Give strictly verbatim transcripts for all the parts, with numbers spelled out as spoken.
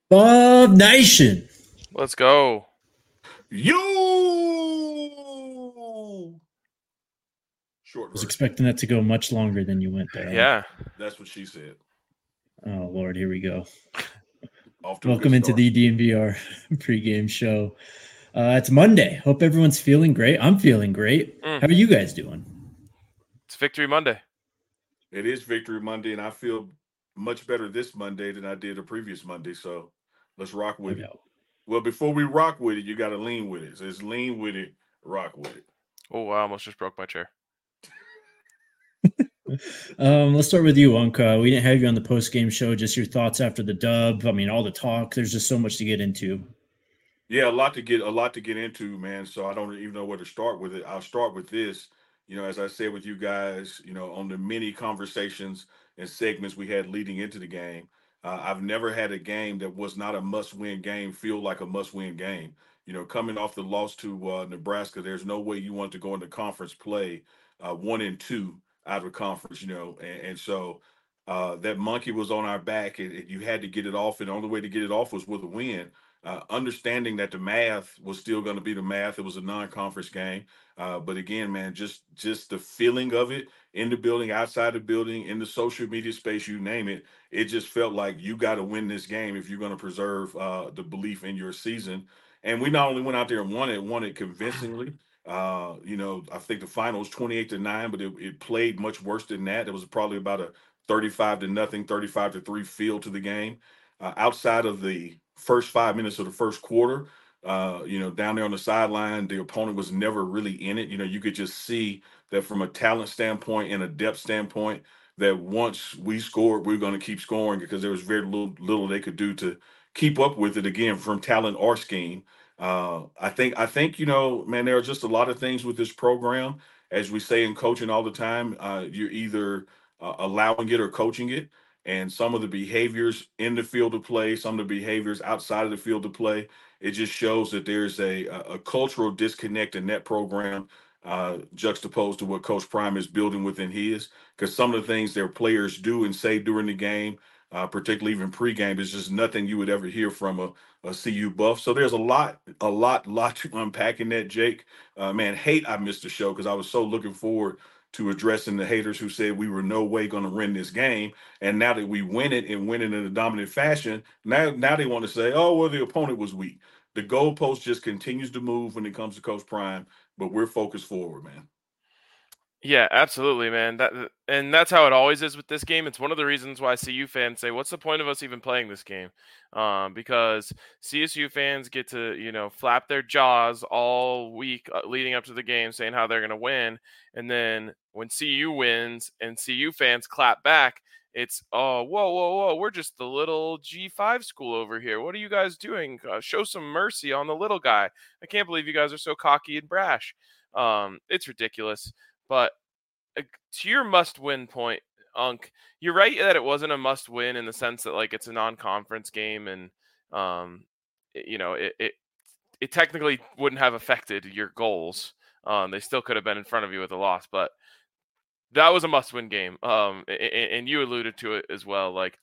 Bob Nation. Let's go. You short Was version. expecting that to go much longer than you went there, huh? Yeah. That's what she said. Oh Lord, here we go. Off to a good Welcome into start. the D N V R pregame show. Uh, it's Monday. Hope everyone's feeling great. I'm feeling great. Mm. How are you guys doing? It's Victory Monday. It is Victory Monday, and I feel much better this Monday than I did the previous Monday. So let's rock with Okay. it. Well, before we rock with it, you got to lean with it. So it's lean with it, rock with it. Oh, I almost just broke my chair. Um, let's start with you, Unka. We didn't have you on the post game show. Just your thoughts after the dub. I mean, all the talk. There's just so much to get into. Yeah, a lot to get a lot to get into, man. So I don't even know where to start with it. I'll start with this. You know, as I said with you guys, you know, on the many conversations and segments we had leading into the game, uh, I've never had a game that was not a must-win game feel like a must-win game. You know, coming off the loss to uh, Nebraska, there's no way you want to go into conference play uh, one and two out of conference. You know, and, and so uh, that monkey was on our back, and, and you had to get it off, and the only way to get it off was with a win, uh, understanding that the math was still going to be the math. It was a non-conference game, uh, but again, man, just just the feeling of it in the building, outside the building, in the social media space, you name it. It just felt like you got to win this game if you're going to preserve uh, the belief in your season. And we not only went out there and won it, won it convincingly. Uh, you know, I think the final was twenty-eight to nine, but it, it played much worse than that. It was probably about a thirty-five to nothing, thirty-five to three feel to the game. Uh, outside of the first five minutes of the first quarter, uh, you know, down there on the sideline, the opponent was never really in it. You know, you could just see that from a talent standpoint and a depth standpoint, that once we scored, we are going to keep scoring because there was very little, little they could do to keep up with it again from talent or scheme. Uh, I think, I think, you know, man, there are just a lot of things with this program. As we say in coaching all the time, uh, you're either uh, allowing it or coaching it, and some of the behaviors in the field of play, some of the behaviors outside of the field of play, it just shows that there's a a cultural disconnect in that program, uh, juxtaposed to what Coach Prime is building within his. Because some of the things their players do and say during the game, uh, particularly even pregame, is just nothing you would ever hear from a, a C U buff. So there's a lot, a lot, lot to unpack in that, Jake. Uh, man, hate I missed the show because I was so looking forward to addressing the haters who said we were no way going to win this game. And now that we win it and win it in a dominant fashion, now now they want to say, oh, well, the opponent was weak. The goalpost just continues to move when it comes to Coach Prime, but we're focused forward, man. Yeah, absolutely, man. That and that's how it always is with this game. It's one of the reasons why C U fans say, "What's the point of us even playing this game?" Um, because C S U fans get to, you know, flap their jaws all week uh, leading up to the game, saying how they're going to win, and then when C U wins and C U fans clap back, it's oh, whoa, whoa, whoa, we're just the little G five school over here. What are you guys doing? Uh, show some mercy on the little guy. I can't believe you guys are so cocky and brash. Um, it's ridiculous. But uh, to your must-win point, Unk, you're right that it wasn't a must-win in the sense that like it's a non-conference game, and um, it- you know, it, it it technically wouldn't have affected your goals. Um, they still could have been in front of you with a loss, but that was a must-win game. Um, a- a- and you alluded to it as well, like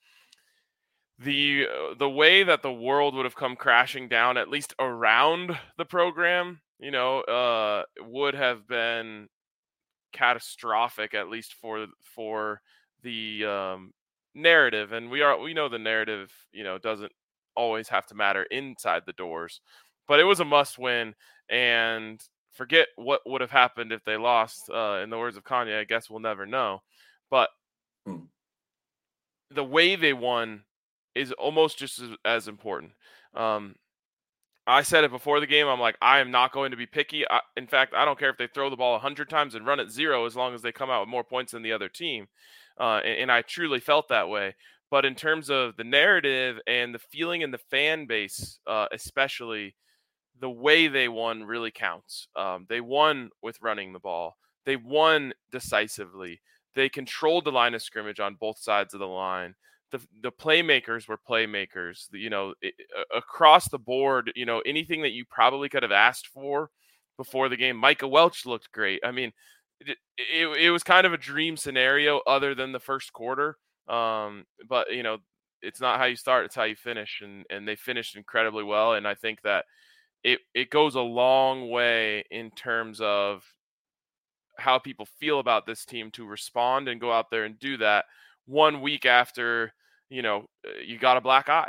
the uh, the way that the world would have come crashing down, at least around the program, you know, uh, would have been catastrophic, at least for for the um, narrative. And we are we know the narrative, you know, doesn't always have to matter inside the doors, but it was a must win. And forget what would have happened if they lost. Uh, in the words of Kanye, I guess we'll never know. But Hmm. the way they won is almost just as, as important. Um, I said it before the game. I'm like, I am not going to be picky. I, in fact, I don't care if they throw the ball a hundred times and run it zero, as long as they come out with more points than the other team. Uh, and, and I truly felt that way. But in terms of the narrative and the feeling in the fan base, uh, especially, the way they won really counts. Um, they won with running the ball. They won decisively. They controlled the line of scrimmage on both sides of the line. The, the playmakers were playmakers. The, you know, it, across the board, you know, anything that you probably could have asked for before the game. Micah Welch looked great. I mean, it, it, it was kind of a dream scenario other than the first quarter. Um, but, you know, it's not how you start, it's how you finish. And, and they finished incredibly well. And I think that it, it goes a long way in terms of how people feel about this team to respond and go out there and do that one week after, you know, you got a black eye.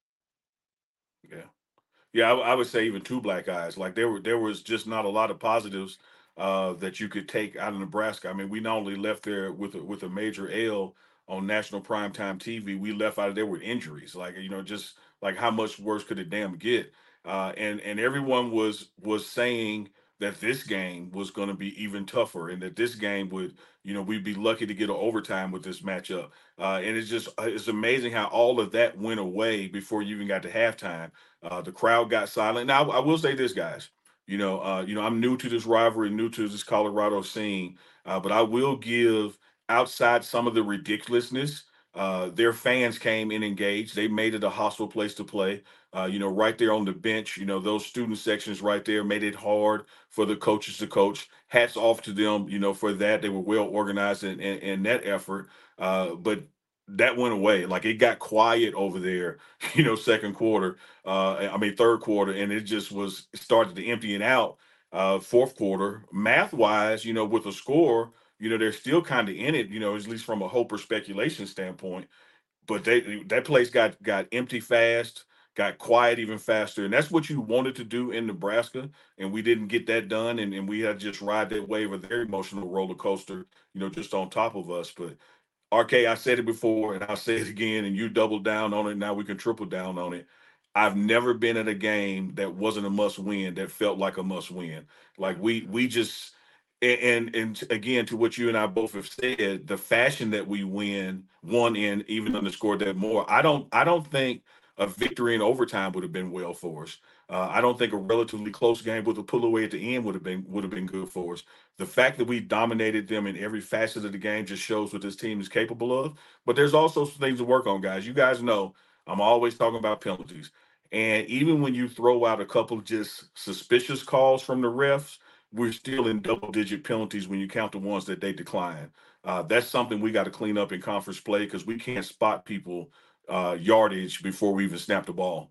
Yeah. Yeah, I, I would say even two black eyes. Like there were, there was just not a lot of positives uh, that you could take out of Nebraska. I mean, we not only left there with a, with a major L on national primetime T V, we left out of there with injuries. Like you know, just like how much worse could it damn get? Uh, and and everyone was was saying that this game was going to be even tougher, and that this game would, you know, we'd be lucky to get an overtime with this matchup. Uh, and it's just it's amazing how all of that went away before you even got to halftime. Uh, the crowd got silent. Now, I will say this, guys. You know, uh, you know, I'm new to this rivalry, new to this Colorado scene, uh, but I will give outside some of the ridiculousness. Uh, their fans came and engaged. They made it a hostile place to play. Uh, you know, right there on the bench. You know, those student sections right there made it hard for the coaches to coach. Hats off to them. You know, for that they were well organized in, in, in that effort. Uh, but that went away. Like it got quiet over there. You know, second quarter uh, I mean, third quarter, and it just was started to empty it out. Uh, fourth quarter, math wise, you know, with a score, you know, they're still kind of in it, you know, at least from a hope or speculation standpoint. But they that place got got empty fast, got quiet even faster, and that's what you wanted to do in Nebraska, and we didn't get that done, and, and we had to just ride that wave of their emotional roller coaster, you know, just on top of us. But R K, I said it before and I'll say it again, and you double down on it. Now we can triple down on it. I've never been at a game that wasn't a must win that felt like a must win. Like we we just and and again to what you and I both have said, the fashion that we win won in even underscored that more. I don't I don't think a victory in overtime would have been well for us. Uh, I don't think a relatively close game with a pull away at the end would have been would have been good for us. The fact that we dominated them in every facet of the game just shows what this team is capable of. But there's also some things to work on, guys. You guys know I'm always talking about penalties. And even when you throw out a couple of just suspicious calls from the refs, we're still in double digit penalties when you count the ones that they decline. Uh, that's something we got to clean up in conference play because we can't spot people uh, yardage before we even snap the ball.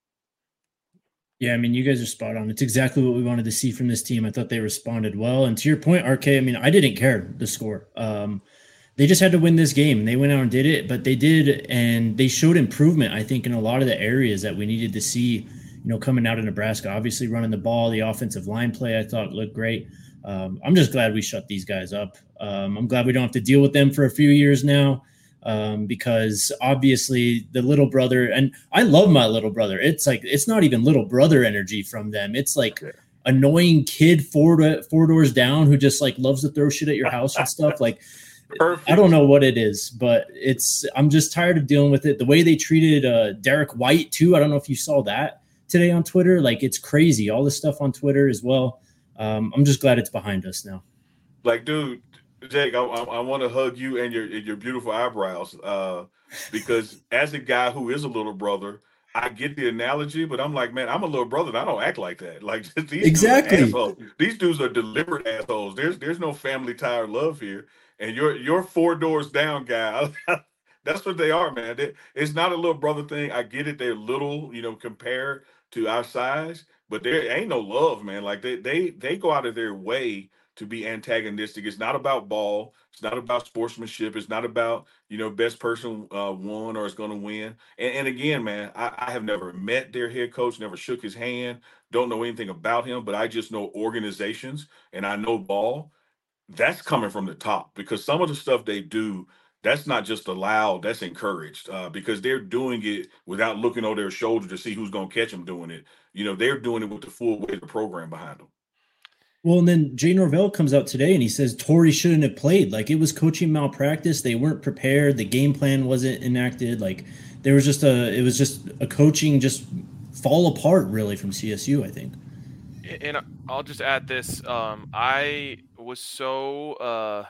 Yeah, I mean, you guys are spot on. It's exactly what we wanted to see from this team. I thought they responded well. And to your point, R K, I mean, I didn't care the score. Um, they just had to win this game. They went out and did it, but they did, and they showed improvement, I think, in a lot of the areas that we needed to see, you know, coming out of Nebraska. Obviously, running the ball, the offensive line play, I thought looked great. Um, I'm just glad we shut these guys up. Um, I'm glad we don't have to deal with them for a few years now. Um, because obviously the little brother, and I love my little brother. It's like, it's not even little brother energy from them. It's like annoying kid four, four doors down who just like loves to throw shit at your house and stuff. Like, Perfect. I don't know what it is, but it's, I'm just tired of dealing with it. The way they treated uh, Derek White too. I don't know if you saw that today on Twitter. Like, it's crazy. All this stuff on Twitter as well. Um, I'm just glad it's behind us now. Like, dude, Jake, I, I, I want to hug you and your and your beautiful eyebrows uh, because as a guy who is a little brother, I get the analogy, but I'm like, man, I'm a little brother and I don't act like that. Like these exactly. dudes are assholes. These dudes are deliberate assholes. There's there's no family tie or love here. And you're you're four doors down, guy. That's what they are, man. They, it's not a little brother thing. I get it. They're little, you know, compared to our size, but there ain't no love, man. Like they they they go out of their way to be antagonistic. It's not about ball. It's not about sportsmanship. It's not about, you know, best person uh, won or is going to win. And, and again, man, I, I have never met their head coach, never shook his hand, don't know anything about him, but I just know organizations and I know ball. That's coming from the top because some of the stuff they do, that's not just allowed, that's encouraged uh, because they're doing it without looking over their shoulder to see who's going to catch them doing it. You know, they're doing it with the full weight of the program behind them. Well, and then Jay Norvell comes out today and he says Torrey shouldn't have played. Like it was coaching malpractice. They weren't prepared. The game plan wasn't enacted. Like there was just a, it was just a coaching just fall apart really from C S U, I think. And I'll just add this. Um, I was so uh,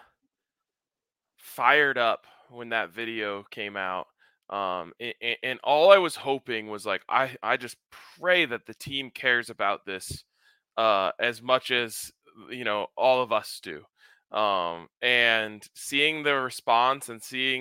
fired up when that video came out. Um, and, and all I was hoping was like, I, I just pray that the team cares about this uh, as much as, you know, all of us do. Um, and seeing the response and seeing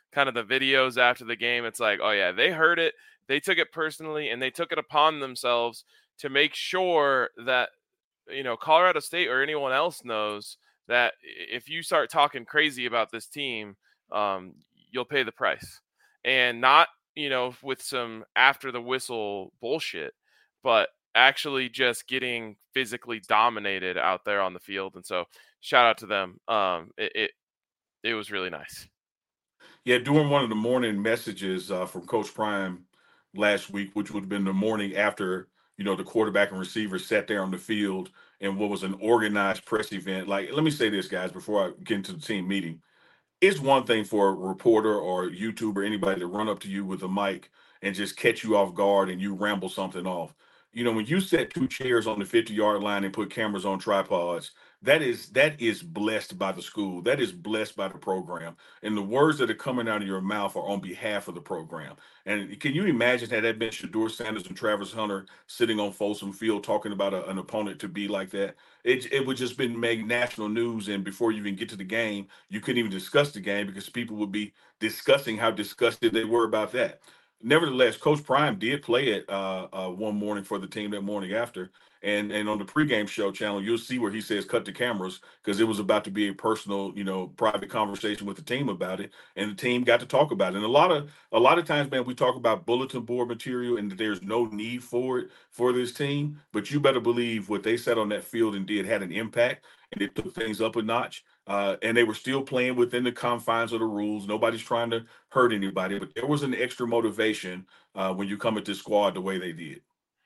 kind of the videos after the game, it's like, oh yeah, they heard it, they took it personally, and they took it upon themselves to make sure that, you know, Colorado State or anyone else knows that if you start talking crazy about this team, um, you'll pay the price. And not, you know, with some after the whistle bullshit, but actually just getting physically dominated out there on the field. And so shout out to them. Um, it, it, it was really nice. Yeah, during one of the morning messages uh, from Coach Prime last week, which would have been the morning after, you know, the quarterback and receiver sat there on the field and what was an organized press event. Like, let me say this, guys, before I get into the team meeting. It's one thing for a reporter or YouTuber, anybody to run up to you with a mic and just catch you off guard and you ramble something off. You know, when you set two chairs on the fifty-yard line and put cameras on tripods, that is that is blessed by the school. That is blessed by the program. And the words that are coming out of your mouth are on behalf of the program. And can you imagine had that been Shedeur Sanders and Travis Hunter sitting on Folsom Field talking about a, an opponent to be like that? It, it would just been made national news. And before you even get to the game, you couldn't even discuss the game because people would be discussing how disgusted they were about that. Nevertheless, Coach Prime did play it uh, uh, one morning for the team that morning after. And and on the pregame show channel, you'll see where he says cut the cameras because it was about to be a personal, you know, private conversation with the team about it. And the team got to talk about it. And a lot of a lot of times, man, we talk about bulletin board material and there's no need for it for this team. But you better believe what they said on that field and did had an impact and it took things up a notch. Uh, and they were still playing within the confines of the rules. Nobody's trying to hurt anybody, but there was an extra motivation uh, when you come at this squad the way they did.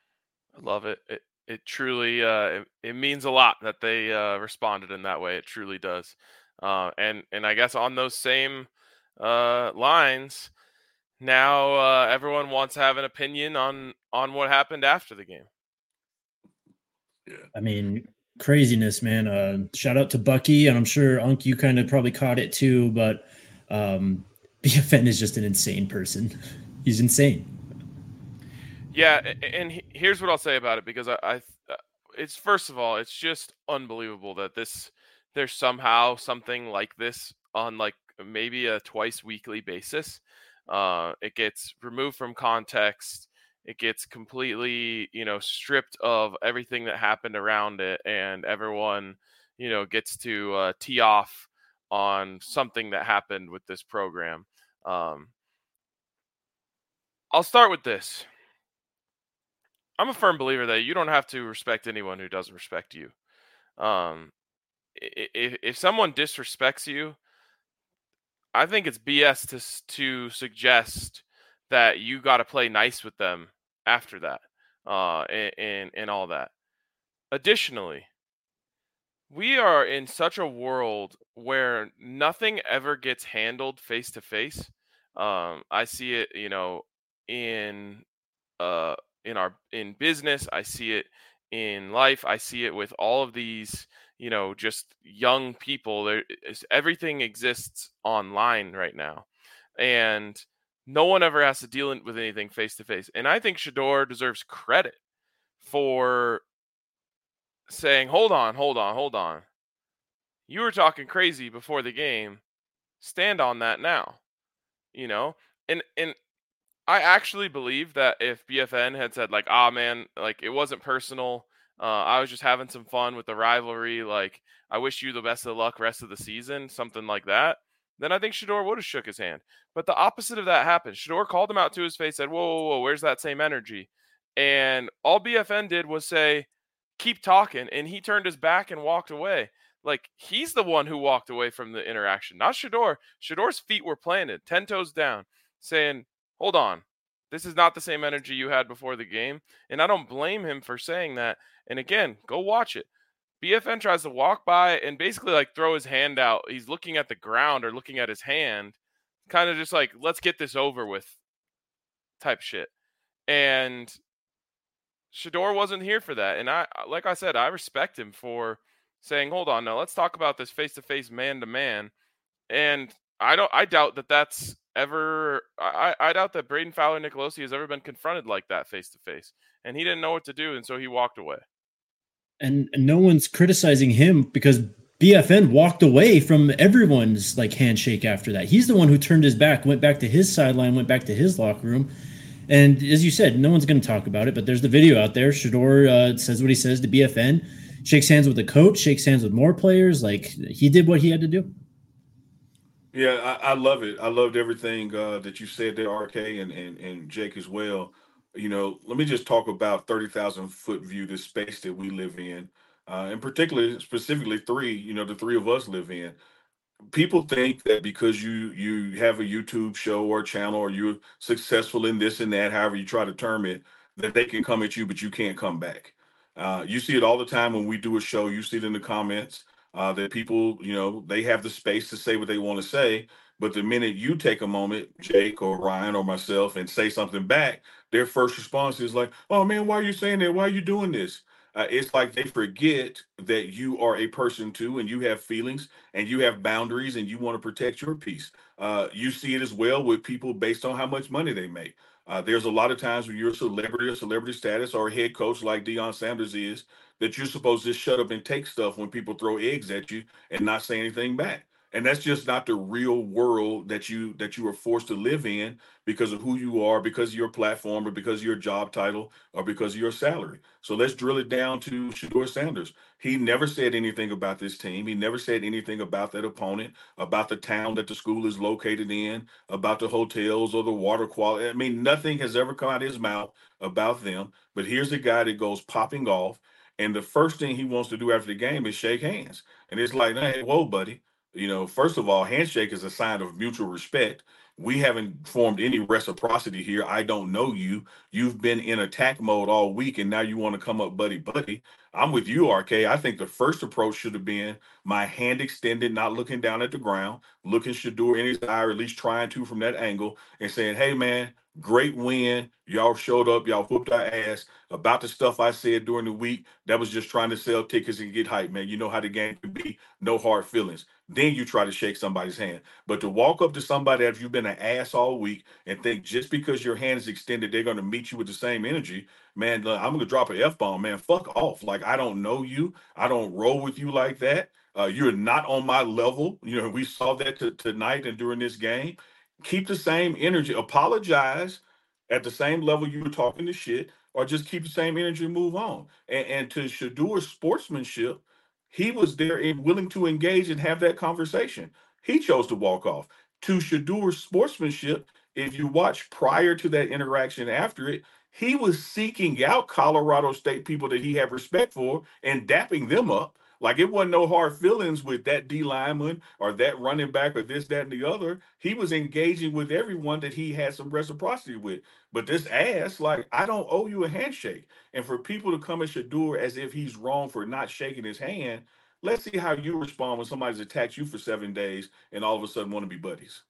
I love it. It it truly uh, it, it means a lot that they uh, responded in that way. It truly does. Uh, and and I guess on those same uh, lines, now uh, everyone wants to have an opinion on on what happened after the game. Yeah, I mean, craziness, man. Uh, shout out to Bucky, and I'm sure Unc, you kind of probably caught it too. But um, B F N is just an insane person. He's insane. Yeah, and here's what I'll say about it, because I, I, it's first of all, it's just unbelievable that this there's somehow something like this on like maybe a twice weekly basis. Uh, it gets removed from context. It gets completely, you know, stripped of everything that happened around it, and everyone, you know, gets to uh, tee off on something that happened with this program. Um, I'll start with this. I'm a firm believer that you don't have to respect anyone who doesn't respect you. Um, if if someone disrespects you, I think it's B S to to suggest that you got to play nice with them after that, uh, and, and and all that. Additionally, we are in such a world where nothing ever gets handled face to face. Um, I see it, you know, in uh. in our in business, I see it in life, I see it with all of these, you know, just young people. There is, everything exists online right now, and no one ever has to deal with anything face to face. And I think Shedeur deserves credit for saying, hold on, hold on, hold on. You were talking crazy before the game. Stand on that now. You know, and and I actually believe that if B F N had said like, ah, man, like it wasn't personal. Uh, I was just having some fun with the rivalry. Like, I wish you the best of luck rest of the season, something like that. Then I think Shedeur would have shook his hand. But the opposite of that happened. Shedeur called him out to his face, said, whoa, whoa, whoa, where's that same energy? And all B F N did was say, keep talking. And he turned his back and walked away. Like, he's the one who walked away from the interaction, not Shedeur. Shedeur's feet were planted, ten toes down, saying, hold on, this is not the same energy you had before the game. And I don't blame him for saying that. And again, go watch it. B F N tries to walk by and basically like throw his hand out. He's looking at the ground or looking at his hand, kind of just like, let's get this over with type shit. And Shedeur wasn't here for that. And I, like I said, I respect him for saying, hold on, now let's talk about this face-to-face man-to-man. And I don't, I doubt that that's ever, I, I doubt that Braden Fowler Nicolosi has ever been confronted like that face to face, and he didn't know what to do, and so he walked away. And, and no one's criticizing him because B F N walked away from everyone's like handshake after that. He's the one who turned his back, went back to his sideline, went back to his locker room. And as you said, no one's going to talk about it, but there's the video out there. Shedeur uh, says what he says to B F N, shakes hands with the coach, shakes hands with more players. Like, he did what he had to do. Yeah, I, I love it. I loved everything uh, that you said there, R K, and, and and Jake as well. You know, let me just talk about thirty thousand foot view, this space that we live in, uh, and particularly, specifically three, you know, the three of us live in. People think that because you you have a YouTube show or channel, or you're successful in this and that, however you try to term it, that they can come at you, but you can't come back. Uh, you see it all the time when we do a show. You see it in the comments uh, that people, you know, they have the space to say what they want to say, but the minute you take a moment, Jake or Ryan or myself, and say something back, their first response is like, "Oh man, why are you saying that? Why are you doing this?" Uh, it's like they forget that you are a person too, and you have feelings and you have boundaries and you want to protect your peace. Uh, you see it as well with people based on how much money they make. Uh, there's a lot of times when you're a celebrity or celebrity status or a head coach like Deion Sanders is, that you're supposed to just shut up and take stuff when people throw eggs at you and not say anything back. And that's just not the real world that you that you are forced to live in because of who you are, because of your platform, or because of your job title, or because of your salary. So let's drill it down to Shedeur Sanders. He never said anything about this team. He never said anything about that opponent, about the town that the school is located in, about the hotels or the water quality. I mean, nothing has ever come out of his mouth about them. But here's a guy that goes popping off, and the first thing he wants to do after the game is shake hands. And it's like, hey, whoa, buddy. You know, first of all, handshake is a sign of mutual respect. We haven't formed any reciprocity here. I don't know you. You've been in attack mode all week, and now you want to come up buddy buddy. I'm with you, R K. I think the first approach should have been my hand extended, not looking down at the ground, looking Shedeur in his eye, or at least trying to from that angle, and saying, "Hey, man, great win. Y'all showed up. Y'all whooped our ass. About the stuff I said during the week, that was just trying to sell tickets and get hype, man. You know how the game can be. No hard feelings." Then you try to shake somebody's hand. But to walk up to somebody after you've been an ass all week and think just because your hand is extended, they're going to meet you with the same energy, man, look, I'm going to drop an F bomb, man. Fuck off. Like, I don't know you. I don't roll with you like that. Uh, you're not on my level. You know, we saw that t- tonight and during this game. Keep the same energy. Apologize at the same level you were talking to shit, or just keep the same energy and move on. And, and to Shedeur's sportsmanship, he was there and willing to engage and have that conversation. He chose to walk off. To Shedeur's sportsmanship, if you watch prior to that interaction, after it, he was seeking out Colorado State people that he had respect for and dapping them up. Like, it wasn't no hard feelings with that D lineman or that running back or this, that, and the other. He was engaging with everyone that he had some reciprocity with. But this ass, like, I don't owe you a handshake. And for people to come at Shedeur as if he's wrong for not shaking his hand, let's see how you respond when somebody's attacked you for seven days and all of a sudden want to be buddies.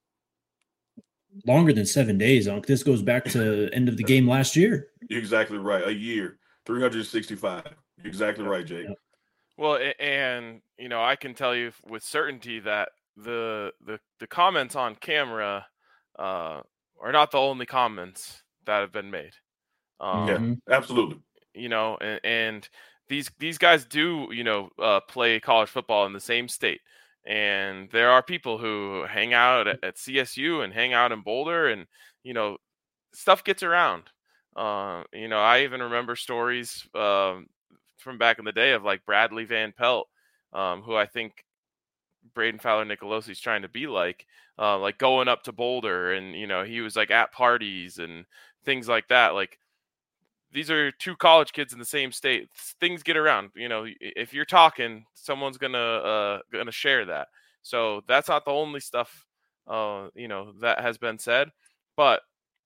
Longer than seven days, Unc. This goes back to end of the game last year. You're exactly right. A year, three hundred sixty-five. You're exactly right, Jake. Yep. Well, and you know, I can tell you with certainty that the the the comments on camera uh, are not the only comments that have been made. Um, yeah, absolutely. You know, and, and these these guys do, you know, uh, play college football in the same state, and there are people who hang out at, at C S U and hang out in Boulder, and you know, stuff gets around. Uh, you know, I even remember stories um, from back in the day of like Bradley Van Pelt, um, who I think Braden Fowler Nicolosi is trying to be like, uh, like going up to Boulder, and you know, he was like at parties and things like that. Like, these are two college kids in the same state. Things get around. You know, if you're talking, someone's gonna uh, gonna share that. So that's not the only stuff, uh, you know, that has been said. But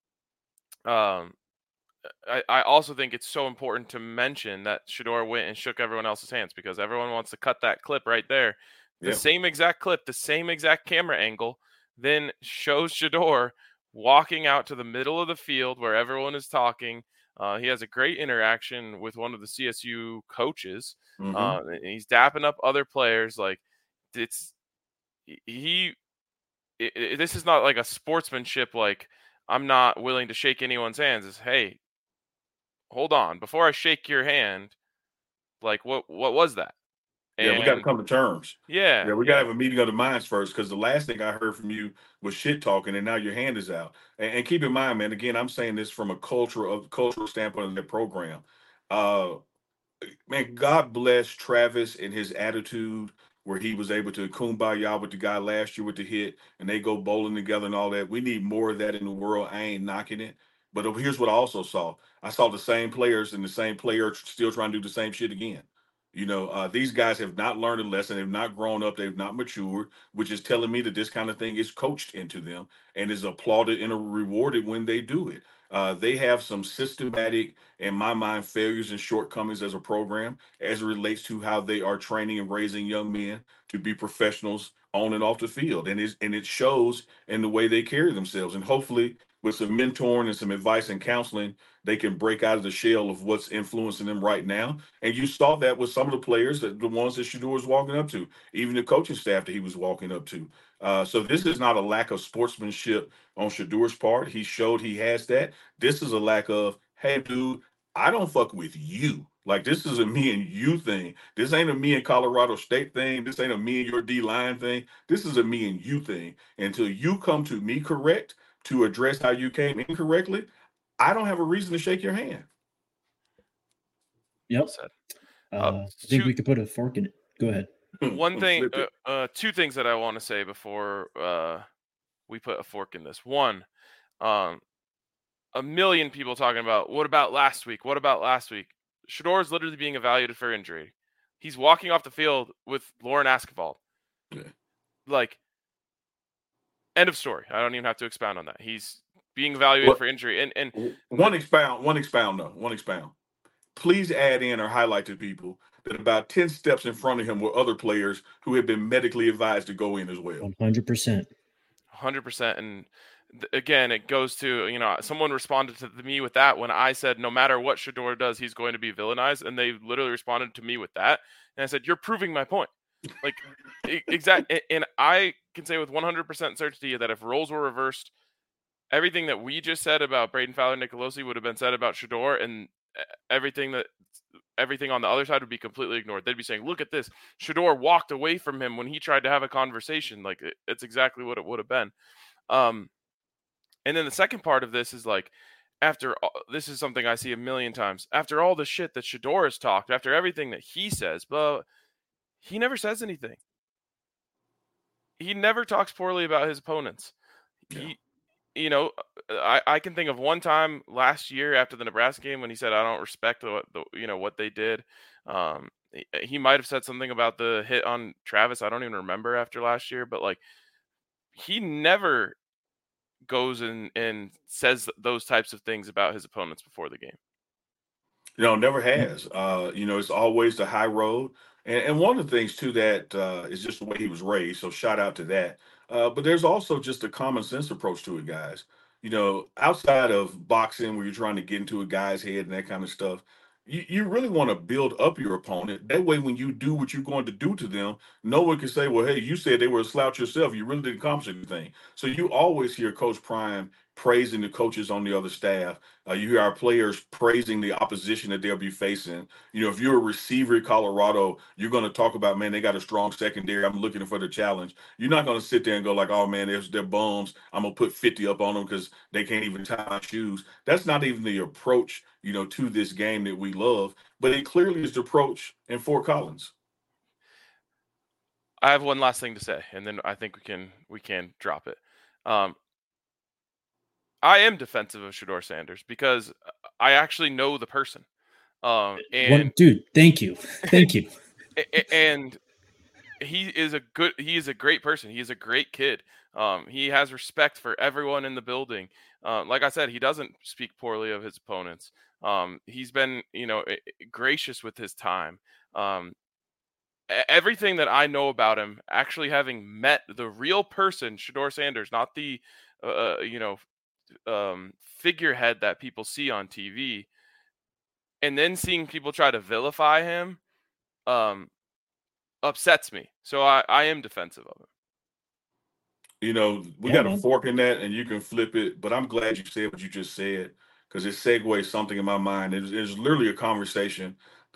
um, I, I also think it's so important to mention that Shedeur went and shook everyone else's hands, because everyone wants to cut that clip right there. The Yeah. same exact clip, the same exact camera angle, then shows Shedeur walking out to the middle of the field where everyone is talking. Uh, he has a great interaction with one of the C S U coaches. Mhm. Uh, and he's dapping up other players. Like, it's he. It, it, this is not like a sportsmanship. Like, I'm not willing to shake anyone's hands. It's, hey, hold on, before I shake your hand, like, what what was that? Yeah, we got to And come to terms. yeah, Yeah, we got to yeah. have a meeting of the minds first, because the last thing I heard from you was shit talking, and now your hand is out. And, and keep in mind, man, again, I'm saying this from a culture of cultural standpoint of the program. Uh, man, God bless Travis and his attitude, where he was able to kumbaya with the guy last year with the hit, and they go bowling together and all that. We need more of that in the world. I ain't knocking it. But here's what I also saw. I saw the same players and the same player still trying to do the same shit again. You know, uh, these guys have not learned a lesson. They've not grown up. They've not matured, which is telling me that this kind of thing is coached into them and is applauded and rewarded when they do it. Uh, they have some systematic, in my mind, failures and shortcomings as a program as it relates to how they are training and raising young men to be professionals on and off the field. And, it's, and it shows in the way they carry themselves. And hopefully, with some mentoring and some advice and counseling, they can break out of the shell of what's influencing them right now. And you saw that with some of the players, that the ones that Shedeur was walking up to, even the coaching staff that he was walking up to. Uh, so this is not a lack of sportsmanship on Shedeur's part. He showed he has that. This is a lack of, hey, dude, I don't fuck with you. Like, this is a me and you thing. This ain't a me and Colorado State thing. This ain't a me and your D line thing. This is a me and you thing. Until you come to me correct to address how you came incorrectly, I don't have a reason to shake your hand. Yep. Well said. Uh, Uh, I think two- we could put a fork in it. Go ahead. One thing, Flip uh, it. uh, two things that I want to say before uh, we put a fork in this. One, um, a million people talking about, what about last week? What about last week? Shedeur is literally being evaluated for injury. He's walking off the field with Lauren Askevald. Yeah. Like, end of story. I don't even have to expound on that. He's being evaluated What- for injury. And and One expound, one expound, though. One expound. Please add in or highlight to people that about ten steps in front of him were other players who had been medically advised to go in as well. one hundred percent. one hundred percent. And th- again, it goes to, you know, someone responded to me with that when I said, no matter what Shedeur does, he's going to be villainized. And they literally responded to me with that. And I said, you're proving my point. Like, e- exactly. And I can say with one hundred percent certainty that if roles were reversed, everything that we just said about Braden Fowler Nicolosi would have been said about Shedeur, and everything that everything on the other side would be completely ignored. They'd be saying, look at this. Shedeur walked away from him when he tried to have a conversation. Like, it, it's exactly what it would have been. Um, and then the second part of this is like, after all, this is something I see a million times. After all the shit that Shedeur has talked, after everything that he says, but he never says anything. He never talks poorly about his opponents. Yeah. He, you know, I, I can think of one time last year after the Nebraska game when he said, I don't respect the, the you know, what they did. Um, he, he might have said something about the hit on Travis. I don't even remember after last year, but like, he never goes and, and says those types of things about his opponents before the game. You know, never has. Uh, you know, it's always the high road. And, and one of the things, too, that uh, is just the way he was raised. So shout out to that. Uh, but there's also just a common sense approach to it, guys. You know, outside of boxing, where you're trying to get into a guy's head and that kind of stuff, you, you really want to build up your opponent. That way, when you do what you're going to do to them, no one can say, well, hey, you said they were a slouch yourself. You really didn't accomplish anything. So you always hear Coach Prime praising the coaches on the other staff. Uh, you hear our players praising the opposition that they'll be facing. You know, if you're a receiver at Colorado, you're going to talk about, man, they got a strong secondary. I'm looking for the challenge. You're not going to sit there and go like, oh, man, they're, they're bums. I'm going to put fifty up on them because they can't even tie my shoes. That's not even the approach, you know, to this game that we love. But it clearly is the approach in Fort Collins. I have one last thing to say, and then I think we can we can drop it. Um, I am defensive of Shedeur Sanders because I actually know the person. Um, and One, dude, thank you, thank you. And he is a good, he is a great person. He is a great kid. Um, he has respect for everyone in the building. Uh, like I said, he doesn't speak poorly of his opponents. Um, he's been, you know, gracious with his time. Um, everything that I know about him, actually having met the real person, Shedeur Sanders, not the, uh, you know, um, figurehead that people see on T V, and then seeing people try to vilify him, um, upsets me. So I, I am defensive of him. You know, we Yeah, got a man. fork in that, and you can flip it. But I'm glad you said what you just said, because it segues something in my mind. It was, it was literally a conversation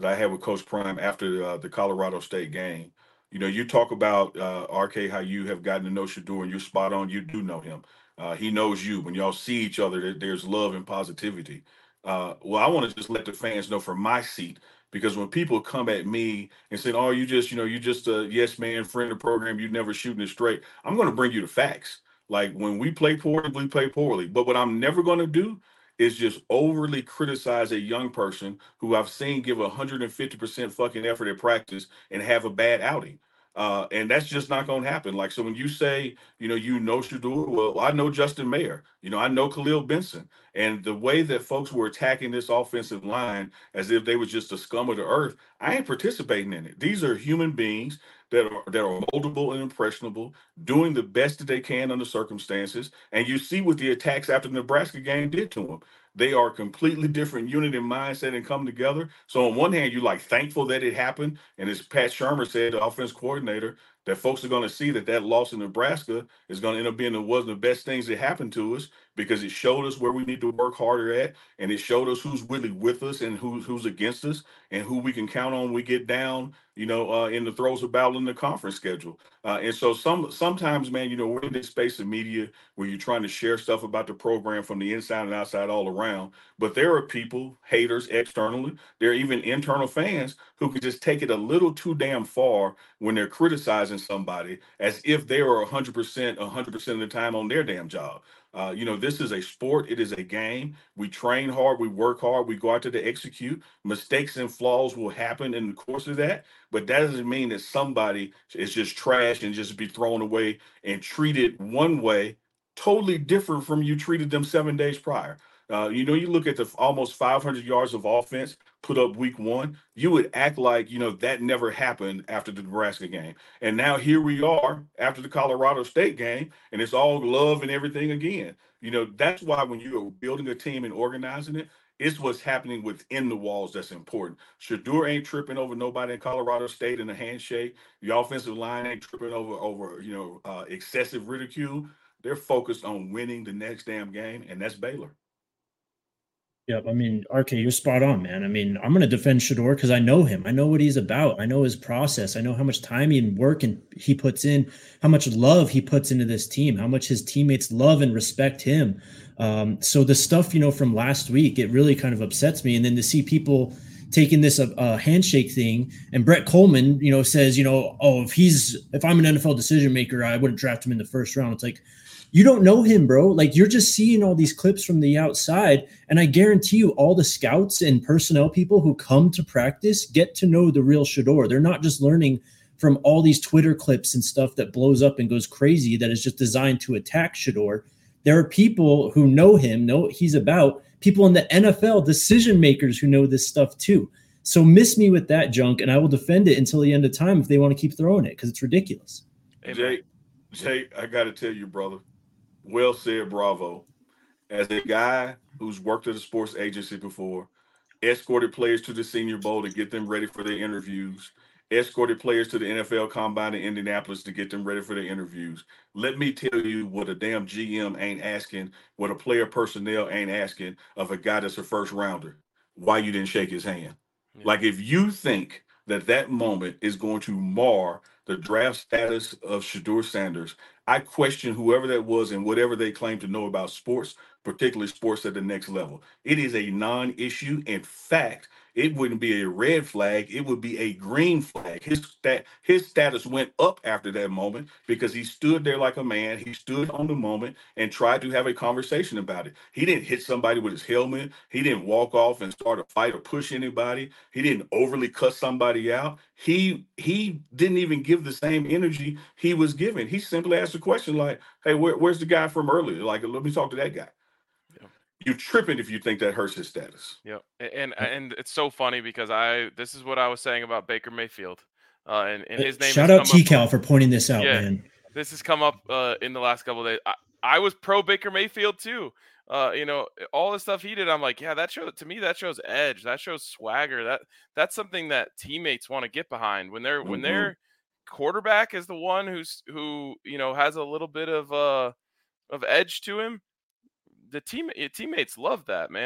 that I had with Coach Prime after uh, the Colorado State game. You know, you talk about uh, R K, how you have gotten to know Shedeur, and you're spot on. You do know him. Uh, he knows you. When y'all see each other, there, there's love and positivity. Uh, well, I want to just let the fans know from my seat, because when people come at me and say, "Oh, you just, you know, you just a yes man, friend of the program, you never shooting it straight," I'm going to bring you the facts. Like, when we play poorly, we play poorly. But what I'm never going to do is just overly criticize a young person who I've seen give one hundred fifty percent fucking effort at practice and have a bad outing. Uh, and that's just not going to happen. Like, so when you say, you know, you know Shedeur, well, I know Justin Mayer, you know, I know Khalil Benson. And the way that folks were attacking this offensive line as if they was just a scum of the earth, I ain't participating in it. These are human beings that are that are moldable and impressionable, doing the best that they can under circumstances. And you see what the attacks after the Nebraska game did to them. They are a completely different unit and mindset and come together. So on one hand, you're like thankful that it happened. And as Pat Shermer said, the offense coordinator, that folks are going to see that that loss in Nebraska is going to end up being the, one of the best things that happened to us, because it showed us where we need to work harder at. And it showed us who's really with us and who's, who's against us, and who we can count on when we get down, you know, uh, in the throes of battle in the conference schedule. Uh, and so some sometimes, man, you know, we're in this space of media where you're trying to share stuff about the program from the inside and outside all around. But there are people, haters externally, there are even internal fans who can just take it a little too damn far when they're criticizing somebody as if they are one hundred percent, one hundred percent of the time on their damn job. Uh, you know, this is a sport. It is a game. We train hard. We work hard. We go out there to execute. Mistakes and flaws will happen in the course of that. But that doesn't mean that somebody is just trash and just be thrown away and treated one way, totally different from you treated them seven days prior. Uh, you know, you look at the almost five hundred yards of offense put up week one, you would act like, you know, that never happened after the Nebraska game. And now here we are after the Colorado State game, and it's all love and everything again. You know, that's why when you're building a team and organizing it, it's what's happening within the walls that's important. Shedeur ain't tripping over nobody in Colorado State in a handshake. The offensive line ain't tripping over, over you know, uh, excessive ridicule. They're focused on winning the next damn game, and that's Baylor. Yep. I mean, R K, you're spot on, man. I mean, I'm going to defend Shedeur because I know him. I know what he's about. I know his process. I know how much time and work and he puts in, how much love he puts into this team, how much his teammates love and respect him. Um, so the stuff, you know, from last week, it really kind of upsets me. And then to see people taking this a uh, handshake thing, and Brett Coleman, you know, says, you know, oh, if he's, if I'm an N F L decision maker, I wouldn't draft him in the first round. It's like, you don't know him, bro. Like, you're just seeing all these clips from the outside. And I guarantee you all the scouts and personnel people who come to practice get to know the real Shedeur. They're not just learning from all these Twitter clips and stuff that blows up and goes crazy that is just designed to attack Shedeur. There are people who know him, know what he's about, people in the N F L, decision makers who know this stuff too. So miss me with that junk, and I will defend it until the end of time if they want to keep throwing it, because it's ridiculous. Hey, Jay, Jay, I got to tell you, brother. Well said, bravo. As a guy who's worked at a sports agency before, escorted players to the Senior Bowl to get them ready for their interviews, escorted players to the N F L Combine in Indianapolis to get them ready for their interviews. Let me tell you what a damn G M ain't asking, what a player personnel ain't asking of a guy that's a first rounder. Why you didn't shake his hand? Yeah. Like, if you think that that moment is going to mar the draft status of Shedeur Sanders, I question whoever that was and whatever they claim to know about sports, particularly sports at the next level. It is a non-issue. In fact, it wouldn't be a red flag. It would be a green flag. His stat, his status went up after that moment because he stood there like a man. He stood on the moment and tried to have a conversation about it. He didn't hit somebody with his helmet. He didn't walk off and start a fight or push anybody. He didn't overly cuss somebody out. He he didn't even give the same energy he was giving. He simply asked a question like, hey, where, where's the guy from earlier? Like, let me talk to that guy. Yeah. You're tripping if you think that hurts his status. Yep. And and it's so funny because I this is what I was saying about Baker Mayfield. Uh, and, and his name. Shout out T Cal for pointing this out, yeah, man. This has come up uh, in the last couple of days. I, I was pro Baker Mayfield too. Uh, you know, all the stuff he did, I'm like, yeah, that shows to me. That shows edge. That shows swagger. That that's something that teammates want to get behind when they're mm-hmm. when their quarterback is the one who's who you know has a little bit of uh of edge to him. The team teammates love that, man.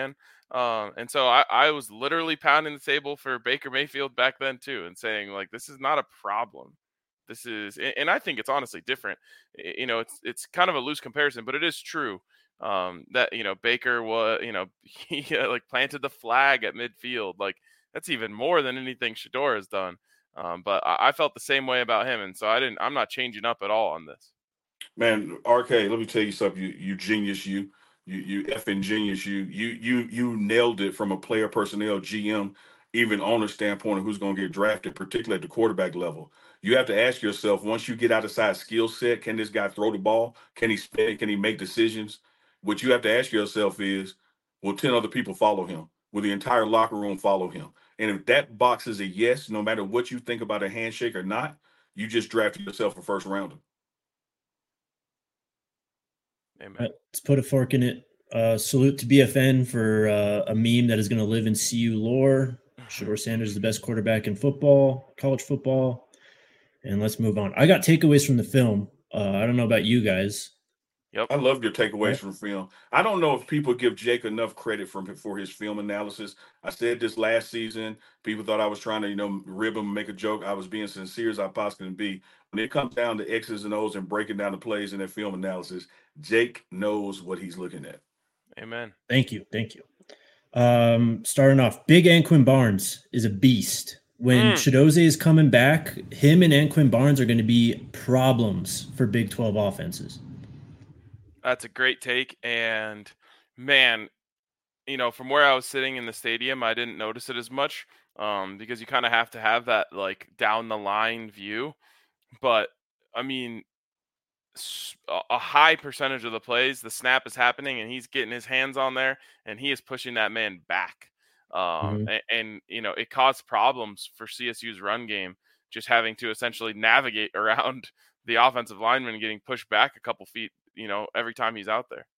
Um, and so I, I was literally pounding the table for Baker Mayfield back then too, and saying like, this is not a problem. This is, and and I think it's honestly different. Y- You know, it's it's kind of a loose comparison, but it is true um, that you know Baker was, you know, he uh, like planted the flag at midfield. Like that's even more than anything Shador has done. Um, but I, I felt the same way about him, and so I didn't. I'm not changing up at all on this. Man, R K, let me tell you something. You you genius, you you you effing genius, you you you you nailed it from a player personnel, G M, even owner standpoint of who's going to get drafted, particularly at the quarterback level. You have to ask yourself, once you get outside skill set, can this guy throw the ball? Can he spin it? Can he make decisions? What you have to ask yourself is, will ten other people follow him? Will the entire locker room follow him? And if that box is a yes, no matter what you think about a handshake or not, you just drafted yourself a first rounder. Amen. Let's put a fork in it. Uh, salute to B F N for uh, a meme that is going to live in C U lore. Shador Sanders is the best quarterback in football, college football. And let's move on. I got takeaways from the film. Uh, I don't know about you guys. Yep. I love your takeaways Right. from film. I don't know if people give Jake enough credit from for his film analysis. I said this last season. People thought I was trying to, you know, rib him, make a joke. I was being sincere as I possibly can be. When it comes down to X's and O's and breaking down the plays in that film analysis, Jake knows what he's looking at. Amen. Thank you. Thank you. Um, starting off, Big Anquin Barnes is a beast. When Mm. Chidoze is coming back, him and Anquin Barnes are going to be problems for Big twelve offenses. That's a great take. And man, you know, from where I was sitting in the stadium, I didn't notice it as much um, because you kind of have to have that like down the line view. But I mean, s- a a high percentage of the plays, the snap is happening and he's getting his hands on there and he is pushing that man back. Um, Mhm. and, and, you know, it caused problems for C S U's run game, just having to essentially navigate around the offensive lineman getting pushed back a couple feet, you know, every time he's out there.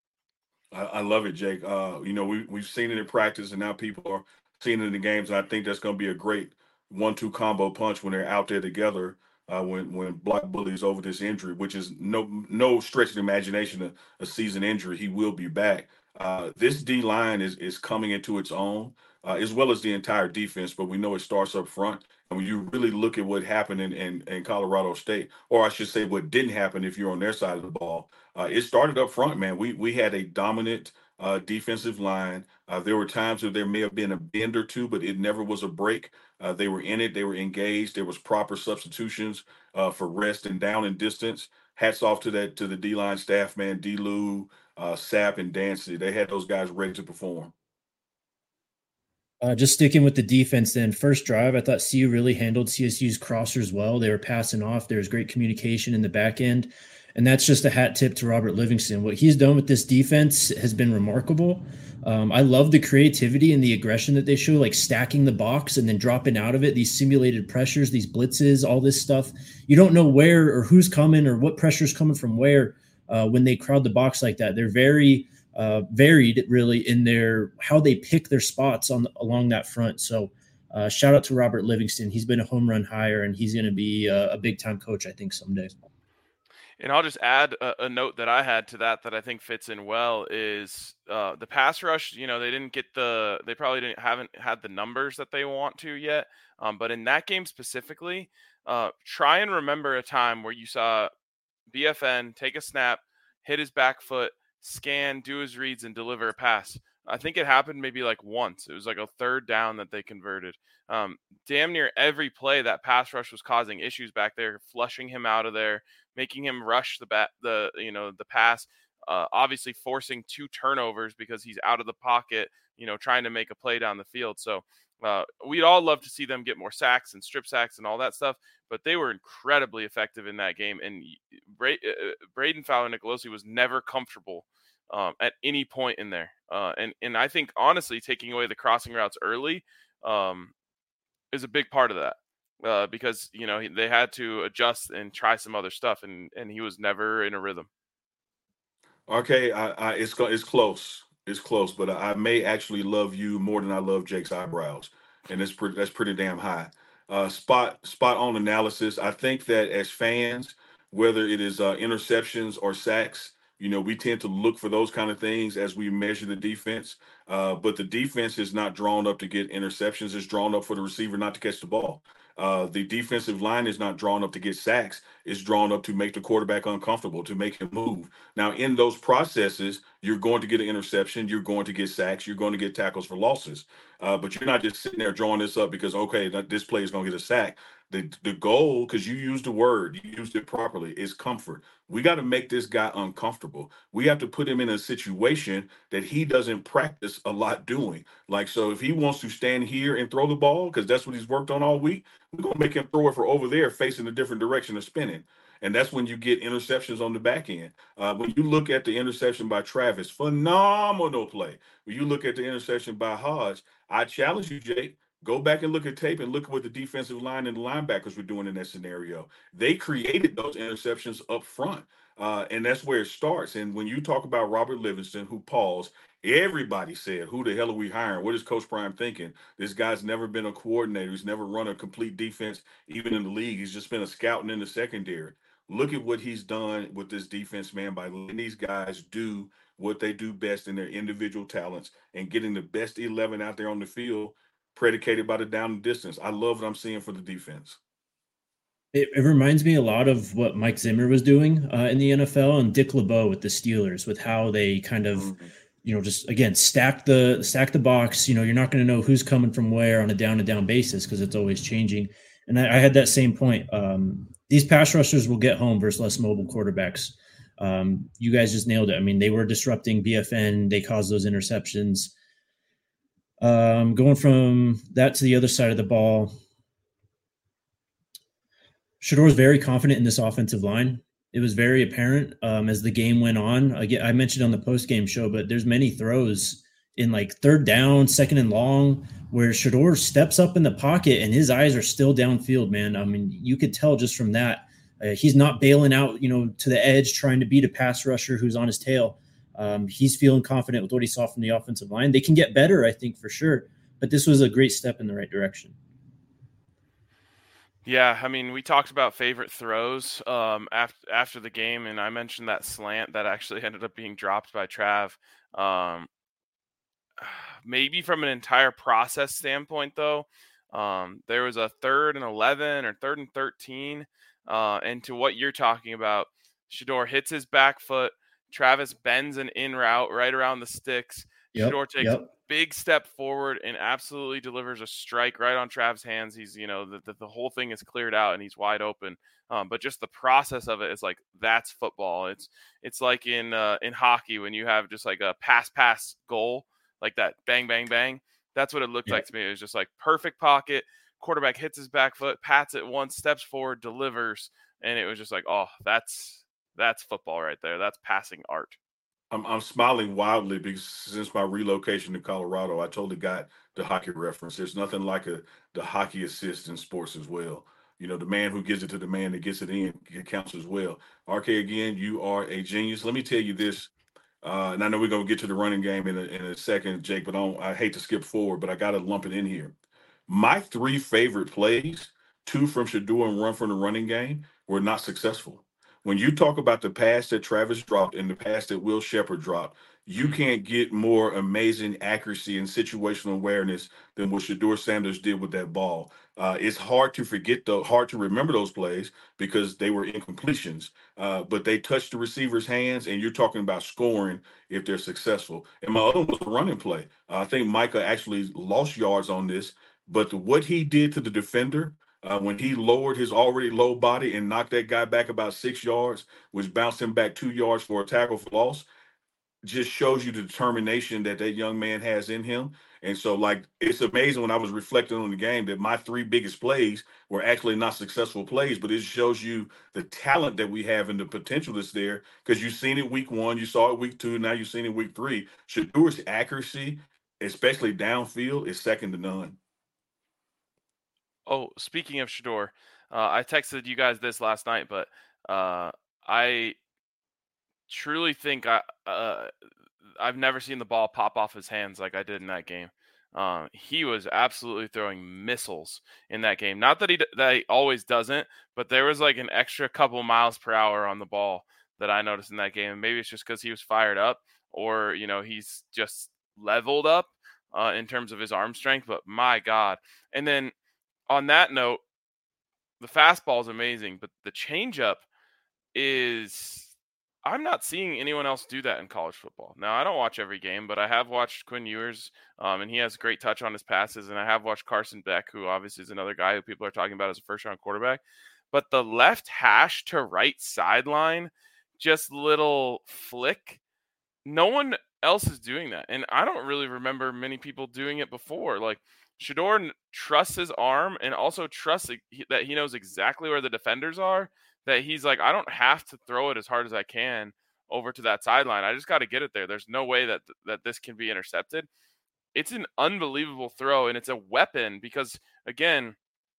I, I love it, Jake. Uh, you know, we we've seen it in practice, and now people are seeing it in the games. And I think that's going to be a great one-two combo punch when they're out there together. Uh, when when Black Bully's over this injury, which is no no stretch of the imagination, a, a season injury, he will be back. Uh, this D line is is coming into its own, uh, as well as the entire defense. But we know it starts up front. And when you really look at what happened in, in, in Colorado State, or I should say, what didn't happen if you're on their side of the ball, uh, it started up front, man. We we had a dominant uh, defensive line. Uh, there were times where there may have been a bend or two, but it never was a break. Uh, they were in it. They were engaged. There was proper substitutions uh, for rest and down and distance. Hats off to that to the D line staff, man. D. Lou, uh, Sapp, and Dancy. They had those guys ready to perform. Uh, just sticking with the defense, then first drive, I thought C U really handled C S U's crossers well. They were passing off. There was great communication in the back end, and that's just a hat tip to Robert Livingston. What he's done with this defense has been remarkable. Um, I love the creativity and the aggression that they show, like stacking the box and then dropping out of it. These simulated pressures, these blitzes, all this stuff. You don't know where or who's coming or what pressure is coming from where uh, when they crowd the box like that. They're very uh, varied really in their how they pick their spots on along that front. So uh, shout out to Robert Livingston. He's been a home run hire and he's going to be a, a big time coach, I think, someday. And I'll just add a, a note that I had to that that I think fits in well is uh, the pass rush. You know, they didn't get the, they probably didn't haven't had the numbers that they want to yet. Um, but in that game specifically, uh, try and remember a time where you saw B F N take a snap, hit his back foot, scan, do his reads, and deliver a pass. I think it happened maybe like once. It was like a third down that they converted. Um, damn near every play that pass rush was causing issues back there, flushing him out of there, making him rush the bat, the you know the pass. Uh, obviously forcing two turnovers because he's out of the pocket, you know, trying to make a play down the field. So uh, we'd all love to see them get more sacks and strip sacks and all that stuff, but they were incredibly effective in that game. And Bra- uh, Braden Fowler-Nicolosi was never comfortable um, at any point in there. Uh, and and I think honestly, taking away the crossing routes early um, is a big part of that. Uh, because you know they had to adjust and try some other stuff, and and he was never in a rhythm. Okay, I, I it's co- it's close. It's close, but I may actually love you more than I love Jake's eyebrows, and it's pretty that's pretty damn high. Uh, spot spot on analysis. I think that as fans, whether it is uh, interceptions or sacks, You know, we tend to look for those kind of things as we measure the defense. Uh, but the defense is not drawn up to get interceptions. It's drawn up for the receiver not to catch the ball. Uh, the defensive line is not drawn up to get sacks. It's drawn up to make the quarterback uncomfortable, to make him move. Now, in those processes, you're going to get an interception. You're going to get sacks. You're going to get tackles for losses. Uh, but you're not just sitting there drawing this up because, okay, that this play is going to get a sack. The, the goal, because you used the word, you used it properly, is comfort. We got to make this guy uncomfortable. We have to put him in a situation that he doesn't practice a lot doing. Like, so if he wants to stand here and throw the ball, because that's what he's worked on all week, we're going to make him throw it for over there facing a different direction of spinning. And that's when you get interceptions on the back end. Uh, when you look at the interception by Travis, phenomenal play. When you look at the interception by Hodge, I challenge you, Jake, go back and look at tape and look at what the defensive line and the linebackers were doing in that scenario. They created those interceptions up front. Uh, and that's where it starts. And when you talk about Robert Livingston, who paused, everybody said, who the hell are we hiring? What is Coach Prime thinking? This guy's never been a coordinator. He's never run a complete defense, even in the league. He's just been a scouting in the secondary. Look at what he's done with this defense, man, by letting these guys do what they do best in their individual talents and getting the best eleven out there on the field, predicated by the down and distance. I love what I'm seeing for the defense. It, it reminds me a lot of what Mike Zimmer was doing uh, in the N F L and Dick LeBeau with the Steelers, with how they kind of, mm-hmm. you know, just again stack the stack the box. You know, you're not going to know who's coming from where on a down and down basis because it's always changing. And I, I had that same point. Um, these pass rushers will get home versus less mobile quarterbacks. Um, you guys just nailed it. I mean, they were disrupting B F N. They caused those interceptions. Um, going from that to the other side of the ball, Shedeur was very confident in this offensive line. It was very apparent um, as the game went on. Again, I mentioned on the post-game show, but there's many throws in like third down, second and long, where Shedeur steps up in the pocket and his eyes are still downfield, man. I mean, you could tell just from that. Uh, he's not bailing out, you know, to the edge, trying to beat a pass rusher who's on his tail. Um, he's feeling confident with what he saw from the offensive line. They can get better, I think, for sure. But this was a great step in the right direction. Yeah, I mean, we talked about favorite throws um, after after the game, and I mentioned that slant that actually ended up being dropped by Trav. Um, maybe from an entire process standpoint, though, um, there was a third and eleven or third and thirteen, uh, and to what you're talking about, Shedeur hits his back foot. Travis bends an in route right around the sticks. Yep, Shedeur takes yep. a big step forward and absolutely delivers a strike right on Trav's hands. He's, you know, the, the, the whole thing is cleared out and he's wide open. Um, but just the process of it is like, that's football. It's, it's like in, uh, in hockey, when you have just like a pass, pass goal, like that bang, bang, bang. That's what it looked Yeah. like to me. It was just like perfect pocket. Quarterback hits his back foot, pats it once, steps forward, delivers. And it was just like, oh, that's, that's football right there. That's passing art. I'm I'm smiling wildly because since my relocation to Colorado, I totally got the hockey reference. There's nothing like a the hockey assist in sports as well. You know, the man who gives it to the man that gets it in, it counts as well. R K, again, you are a genius. Let me tell you this, uh, and I know we're gonna get to the running game in a, in a second, Jake. But I, don't, I hate to skip forward, but I got to lump it in here. My three favorite plays, two from Shedeur and one from the running game, were not successful. When you talk about the pass that Travis dropped and the pass that Will Shepherd dropped, you can't get more amazing accuracy and situational awareness than what Shedeur Sanders did with that ball. Uh, it's hard to forget, though, hard to remember those plays because they were incompletions, uh, but they touched the receiver's hands, and you're talking about scoring if they're successful. And my other one was a running play. Uh, I think Micah actually lost yards on this, but the, what he did to the defender, Uh, when he lowered his already low body and knocked that guy back about six yards, which bounced him back two yards for a tackle for loss, just shows you the determination that that young man has in him. And so, like, it's amazing when I was reflecting on the game that my three biggest plays were actually not successful plays, but it shows you the talent that we have and the potential that's there because you've seen it week one, you saw it week two, now you've seen it week three. Shadeur's accuracy, especially downfield, is second to none. Oh, speaking of Shedeur, uh, I texted you guys this last night, but uh, I truly think I uh, I've never seen the ball pop off his hands like I did in that game. Um, he was absolutely throwing missiles in that game. Not that he that he always doesn't, but there was like an extra couple miles per hour on the ball that I noticed in that game. And maybe it's just because he was fired up, or, you know, he's just leveled up uh, in terms of his arm strength. But my God. And then on that note, the fastball is amazing, but the changeup is, I'm not seeing anyone else do that in college football. Now, I don't watch every game, but I have watched Quinn Ewers, um, and he has great touch on his passes. And I have watched Carson Beck, who obviously is another guy who people are talking about as a first-round quarterback. But the left hash to right sideline, just little flick, no one else is doing that. And I don't really remember many people doing it before. Like, Shedeur trusts his arm and also trusts that he knows exactly where the defenders are, that he's like, I don't have to throw it as hard as I can over to that sideline. I just got to get it there. There's no way that that this can be intercepted. It's an unbelievable throw, and it's a weapon because, again,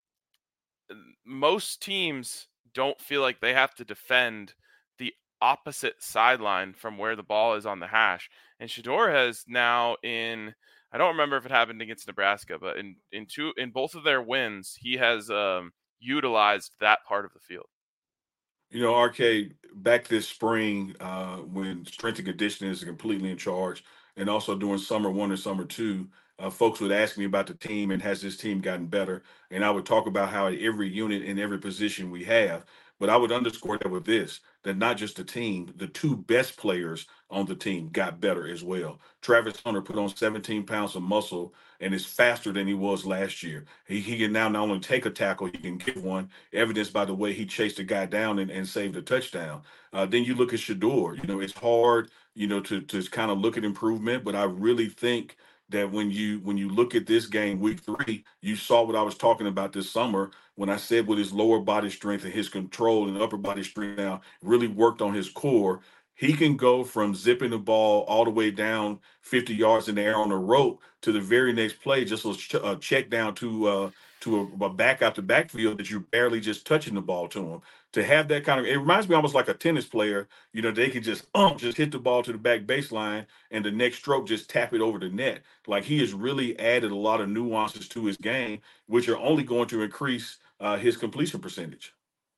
most teams don't feel like they have to defend the opposite sideline from where the ball is on the hash. And Shedeur has now in – I don't remember if it happened against Nebraska, but in in two in both of their wins, he has um, utilized that part of the field. You know, R K, back this spring uh, when strength and conditioning is completely in charge, and also doing summer one and summer two, uh, folks would ask me about the team and has this team gotten better? And I would talk about how at every unit in every position we have. But I would underscore that with this, that not just the team, the two best players on the team got better as well. Travis Hunter put on seventeen pounds of muscle and is faster than he was last year. He, he can now not only take a tackle, he can give one, evidenced by the way he chased a guy down and, and saved a touchdown. Uh, then you look at Shedeur. You know, it's hard, you know, to, to kind of look at improvement, but I really think that when you when you look at this game, week three, you saw what I was talking about this summer when I said with his lower body strength and his control and upper body strength now really worked on his core. He can go from zipping the ball all the way down fifty yards in the air on a rope to the very next play, just a, ch- a check down to uh, to a, a back out the backfield that you're barely just touching the ball to him. To have that kind of, it reminds me almost like a tennis player. You know, they can just um just hit the ball to the back baseline and the next stroke just tap it over the net. Like, he has really added a lot of nuances to his game, which are only going to increase uh, his completion percentage.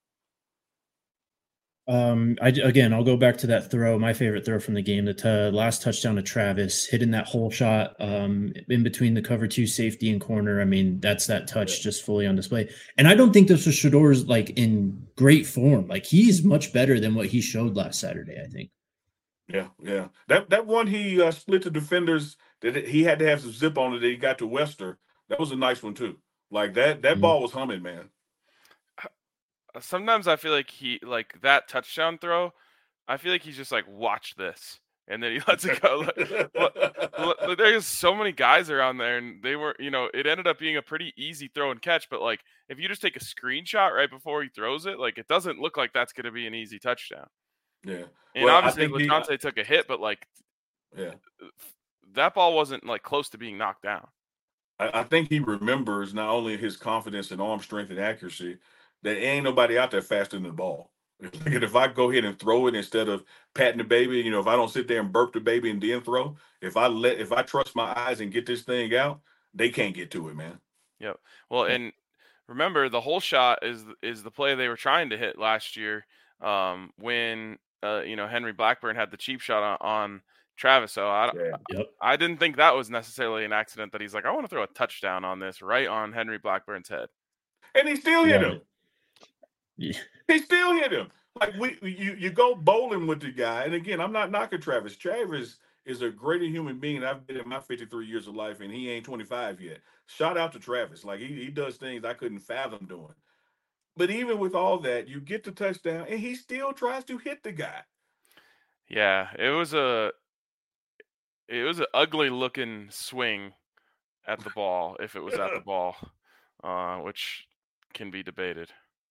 Um, I again, I'll go back to that throw. My favorite throw from the game, the t- last touchdown to Travis, hitting that hole shot um, in between the cover two safety and corner. I mean, that's that touch just fully on display. And I don't think this was Shedeur's like in great form. Like, he's much better than what he showed last Saturday, I think. Yeah, yeah. That that one he uh, split the defenders that he had to have some zip on it that he got to Wester. That was a nice one too. Like that that mm-hmm. ball was humming, man. Sometimes I feel like he like that touchdown throw. I feel like he's just like, watch this, and then he lets it go. Like, there's so many guys around there, and they were, you know, it ended up being a pretty easy throw and catch. But like, if you just take a screenshot right before he throws it, like, it doesn't look like that's going to be an easy touchdown. Yeah, and well, obviously LaConte he, took a hit, but like, yeah, that ball wasn't like close to being knocked down. I, I think he remembers not only his confidence and arm strength and accuracy. There ain't nobody out there faster than the ball. If I go ahead and throw it instead of patting the baby, you know, if I don't sit there and burp the baby and then throw, if I let, if I trust my eyes and get this thing out, they can't get to it, man. Yep. Well, and remember, the whole shot is is the play they were trying to hit last year um, when uh, you know, Henry Blackburn had the cheap shot on, on Travis. So I, yeah. yep. I I didn't think that was necessarily an accident. That he's like, I want to throw a touchdown on this right on Henry Blackburn's head, and he still hit yeah. him. Yeah. He still hit him. Like, we, you, you go bowling with the guy. And again, I'm not knocking Travis. Travis is a greater human being. I've been in my fifty-three years of life, and he ain't twenty-five yet. Shout out to Travis. Like, he, he does things I couldn't fathom doing. But even with all that, you get the touchdown, and he still tries to hit the guy. Yeah, it was a it was an ugly looking swing at the ball if it was at the ball, uh, which can be debated.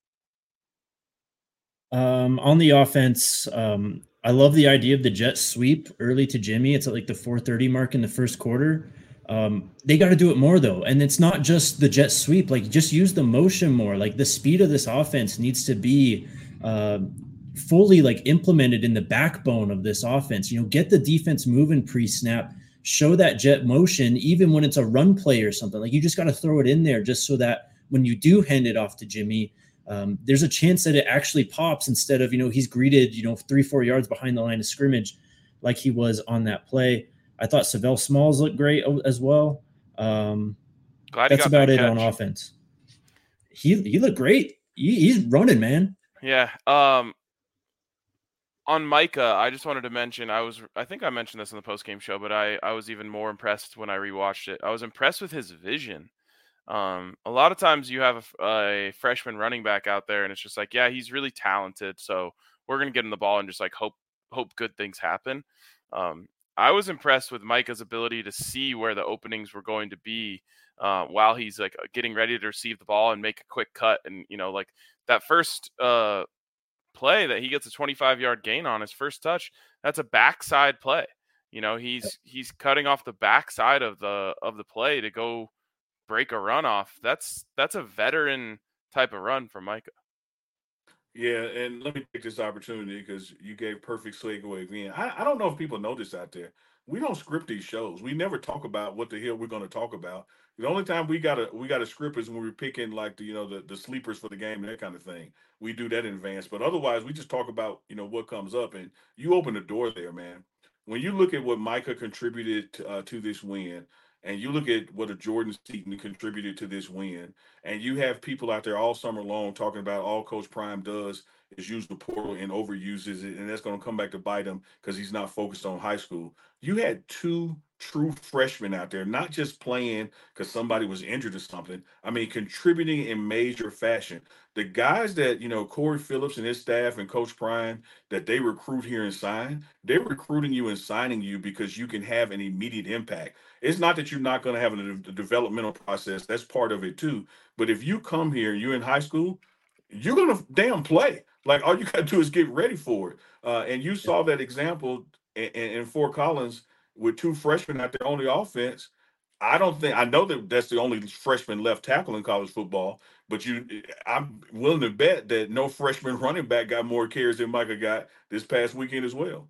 Um, on the offense, um, I love the idea of the jet sweep early to Jimmy. It's at like the four thirty mark in the first quarter. Um, they got to do it more though. And it's not just the jet sweep, like just use the motion more. Like the speed of this offense needs to be uh, fully like implemented in the backbone of this offense. You know, get the defense moving pre-snap, show that jet motion, even when it's a run play or something. Like, you just got to throw it in there just so that when you do hand it off to Jimmy, Um, there's a chance that it actually pops instead of, you know, he's greeted, you know, three, four yards behind the line of scrimmage like he was on that play. I thought Savell Smalls looked great as well. Um, Glad he that's got about that it catch. on offense. He he looked great. He, he's running, man. Yeah. Um, on Micah, I just wanted to mention, I was, I think I mentioned this in the post-game show, but I, I was even more impressed when I rewatched it. I was impressed with his vision. Um, a lot of times you have a, a freshman running back out there and it's just like, yeah, he's really talented, so we're going to get him the ball and just like hope, hope good things happen. Um, I was impressed with Micah's ability to see where the openings were going to be uh, while he's like getting ready to receive the ball and make a quick cut. And, you know, like that first uh, play that he gets a twenty-five yard gain on his first touch, that's a backside play. You know, he's, he's cutting off the backside of the, of the play to go break a run off. That's, that's a veteran type of run for Micah. Yeah, and let me take this opportunity because you gave perfect segue in. I, I don't know if people know this out there. We don't script these shows. We never talk about what the hell we're going to talk about. The only time we got a we got a script is when we're picking like the you know the, the sleepers for the game and that kind of thing. We do that in advance, but otherwise we just talk about you know what comes up. And you open the door there, man. When you look at what Micah contributed to, uh, to this win, and you look at what a Jordan Seaton contributed to this win, and you have people out there all summer long talking about all Coach Prime does is use the portal and overuses it, and that's going to come back to bite him because he's not focused on high school. You had two true freshmen out there, not just playing because somebody was injured or something. I mean, contributing in major fashion. The guys that, you know, Corey Phillips and his staff and Coach Prime, that they recruit here and sign, they're recruiting you and signing you because you can have an immediate impact. It's not that you're not going to have a, a developmental process. That's part of it too. But if you come here, you're in high school, you're going to damn play. Like all you got to do is get ready for it. Uh, and you saw that example in, in Fort Collins with two freshmen out there on the offense. I don't think I know that that's the only freshman left tackle in college football, but you, I'm willing to bet that no freshman running back got more carries than Micah got this past weekend as well.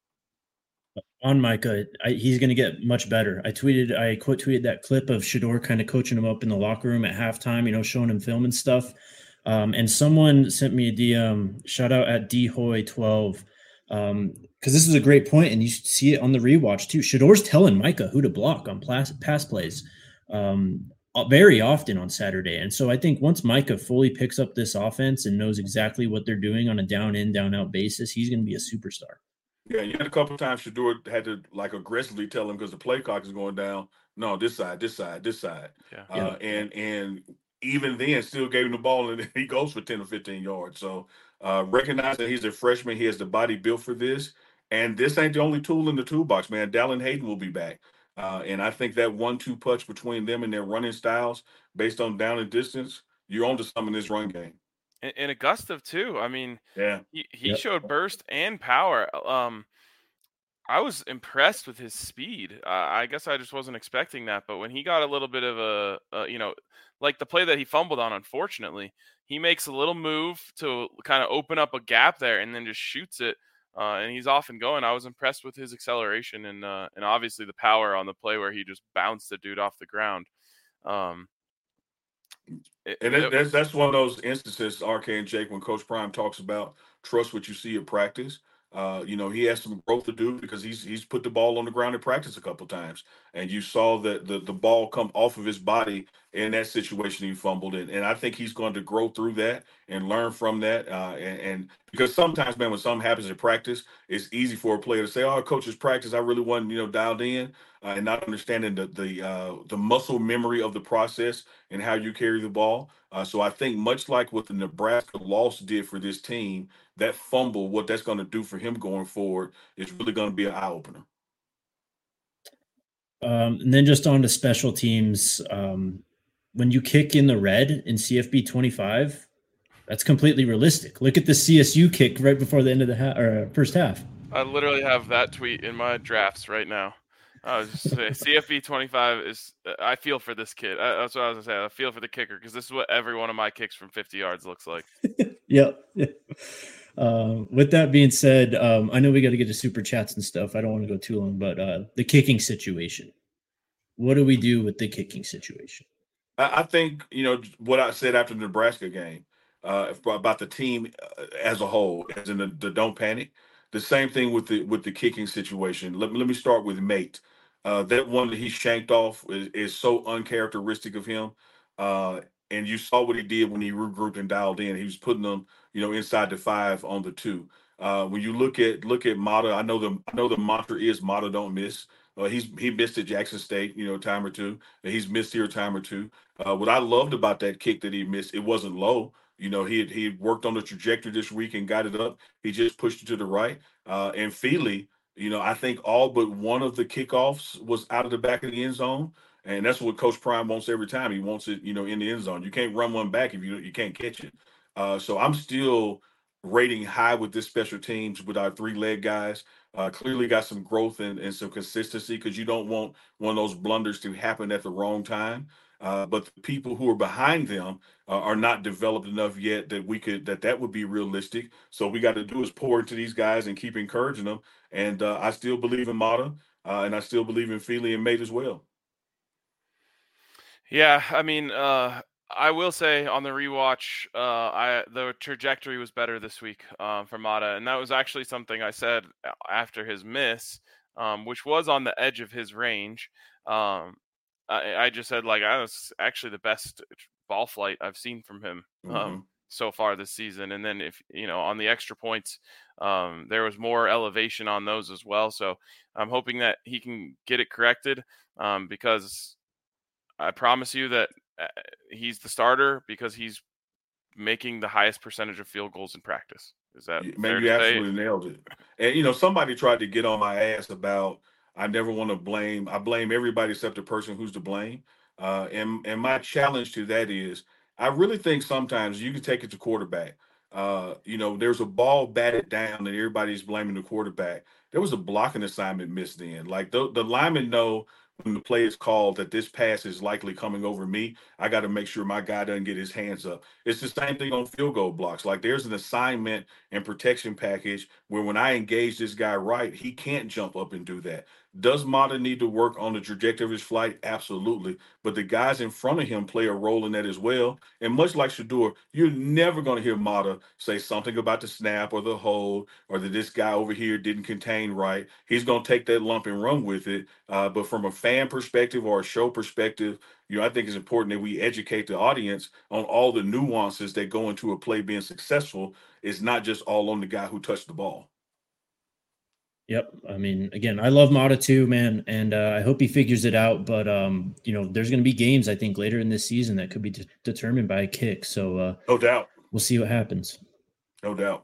On Micah, I, he's going to get much better. I tweeted, I quote tweeted that clip of Shedeur kind of coaching him up in the locker room at halftime, you know, showing him film and stuff. Um, and someone sent me a D M, shout out at D Hoy twelve, um, because this is a great point, and you see it on the rewatch too. Shedeur's telling Micah who to block on pass, pass plays um, very often on Saturday. And so I think once Micah fully picks up this offense and knows exactly what they're doing on a down in, down out basis, he's going to be a superstar. Yeah, you had a couple of times Shedeur had to like aggressively tell him because the play clock is going down. No, this side, this side, this side. Yeah. Uh, yeah. And and even then, still gave him the ball, and he goes for ten or fifteen yards. So uh, recognize that he's a freshman. He has the body built for this. And this ain't the only tool in the toolbox, man. Dallin Hayden will be back. Uh, and I think that one two punch between them and their running styles based on down and distance, you're on to some in this run game. And, and Augusta, too. I mean, yeah, he, he yep. showed burst and power. Um, I was impressed with his speed. Uh, I guess I just wasn't expecting that. But when he got a little bit of a, a, you know, like the play that he fumbled on, unfortunately, he makes a little move to kind of open up a gap there and then just shoots it. Uh, and he's off and going. I was impressed with his acceleration and uh, and obviously the power on the play where he just bounced the dude off the ground. Um, it, and it, that's that's one of those instances, R K and Jake, when Coach Prime talks about trust what you see at practice. Uh, you know, he has some growth to do because he's he's put the ball on the ground in practice a couple of times, and you saw that the the ball come off of his body in that situation he fumbled it. And I think he's going to grow through that and learn from that. Uh, and, and because sometimes, man, when something happens in practice, it's easy for a player to say, "Oh, coach's practice, I really wasn't, you know, dialed in," uh, and not understanding the the uh, the muscle memory of the process and how you carry the ball. Uh, so I think much like what the Nebraska loss did for this team, that fumble, what that's going to do for him going forward is really going to be an eye opener. Um, and then just on to special teams. Um, when you kick in the red in C F B twenty-five, that's completely realistic. Look at the C S U kick right before the end of the ha- or first half. I literally have that tweet in my drafts right now. I was just saying, C F B twenty-five is. I feel for this kid. I, that's what I was gonna say. I feel for the kicker because this is what every one of my kicks from fifty yards looks like. Yep. Uh, with that being said, um, I know we got to get to super chats and stuff. I don't want to go too long, but uh, the kicking situation. What do we do with the kicking situation? I, I think, you know, what I said after the Nebraska game, uh, about the team as a whole, as in the, the don't panic. The same thing with the with the kicking situation. Let me let me start with Mate. Uh, that one that he shanked off is, is so uncharacteristic of him. Uh, and you saw what he did when he regrouped and dialed in. He was putting them, you know, inside the five on the two. Uh, when you look at look at Mata, I know the I know the mantra is Mata don't miss. Uh, he's he missed at Jackson State, you know, a time or two. And he's missed here a time or two. Uh, what I loved about that kick that he missed, it wasn't low. You know, he had, he had worked on the trajectory this week and got it up. He just pushed it to the right. Uh, and Feely, you know, I think all but one of the kickoffs was out of the back of the end zone. And that's what Coach Prime wants every time. He wants it, you know, in the end zone. You can't run one back if you you can't catch it. Uh, so I'm still rating high with this special teams with our three leg guys. Uh, clearly got some growth and, and some consistency because you don't want one of those blunders to happen at the wrong time. Uh, but the people who are behind them uh, are not developed enough yet that we could that that would be realistic. So we got to do is pour into these guys and keep encouraging them. And uh, I still believe in Mata, uh, and I still believe in Feely and Mate as well. Yeah, I mean, uh, I will say on the rewatch, uh, I the trajectory was better this week um, for Mata, and that was actually something I said after his miss, um, which was on the edge of his range. Um, I, I just said like I was actually the best ball flight I've seen from him um, mm-hmm. so far this season. And then if you know on the extra points, um, there was more elevation on those as well. So I'm hoping that he can get it corrected um, because I promise you that he's the starter because he's making the highest percentage of field goals in practice. Is that yeah, man? You absolutely say? nailed it. And you know somebody tried to get on my ass about. I never want to blame. I blame everybody except the person who's to blame. Uh, and and my challenge to that is, I really think sometimes you can take it to quarterback. Uh, you know, there's a ball batted down and everybody's blaming the quarterback. There was a blocking assignment missed in. Like the, the linemen know when the play is called that this pass is likely coming over me. I got to make sure my guy doesn't get his hands up. It's the same thing on field goal blocks. Like there's an assignment and protection package where when I engage this guy right, he can't jump up and do that. Does Mata need to work on the trajectory of his flight? Absolutely. But the guys in front of him play a role in that as well. And much like Shedeur, you're never going to hear Mata say something about the snap or the hold or that this guy over here didn't contain right. He's going to take that lump and run with it. Uh, but from a fan perspective or a show perspective, you know, I think it's important that we educate the audience on all the nuances that go into a play being successful. It's not just all on the guy who touched the ball. Yep. I mean, again, I love Mata too, man, and uh, I hope he figures it out. But um, you know, there's going to be games I think later in this season that could be de- determined by a kick. So uh, no doubt, we'll see what happens. No doubt.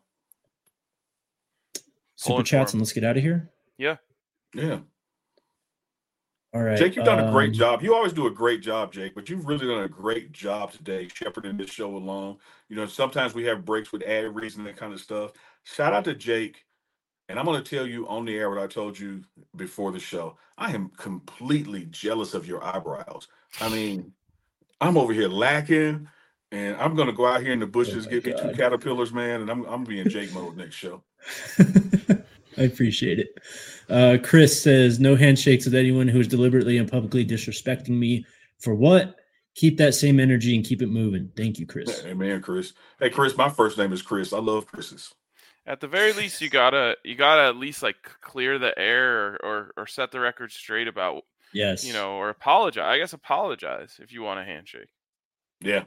Super chats, and let's get out of here. Yeah. Yeah. All right, Jake, you've done um, a great job. You always do a great job, Jake, but you've really done a great job today shepherding this show along. You know, sometimes we have breaks with ad reads and that kind of stuff. Shout out to Jake. And I'm going to tell you on the air what I told you before the show. I am completely jealous of your eyebrows. I mean, I'm over here lacking, and I'm going to go out here in the bushes, oh get God. me two caterpillars, man, and I'm I'm being Jake mode next show. I appreciate it. Uh, Chris says, no handshakes with anyone who is deliberately and publicly disrespecting me. For what? Keep that same energy and keep it moving. Thank you, Chris. Hey, man, Chris. Hey, Chris, my first name is Chris. I love Chris's. At the very least, you gotta you gotta at least like clear the air or, or or set the record straight about yes, you know, or apologize. I guess apologize if you want a handshake. Yeah.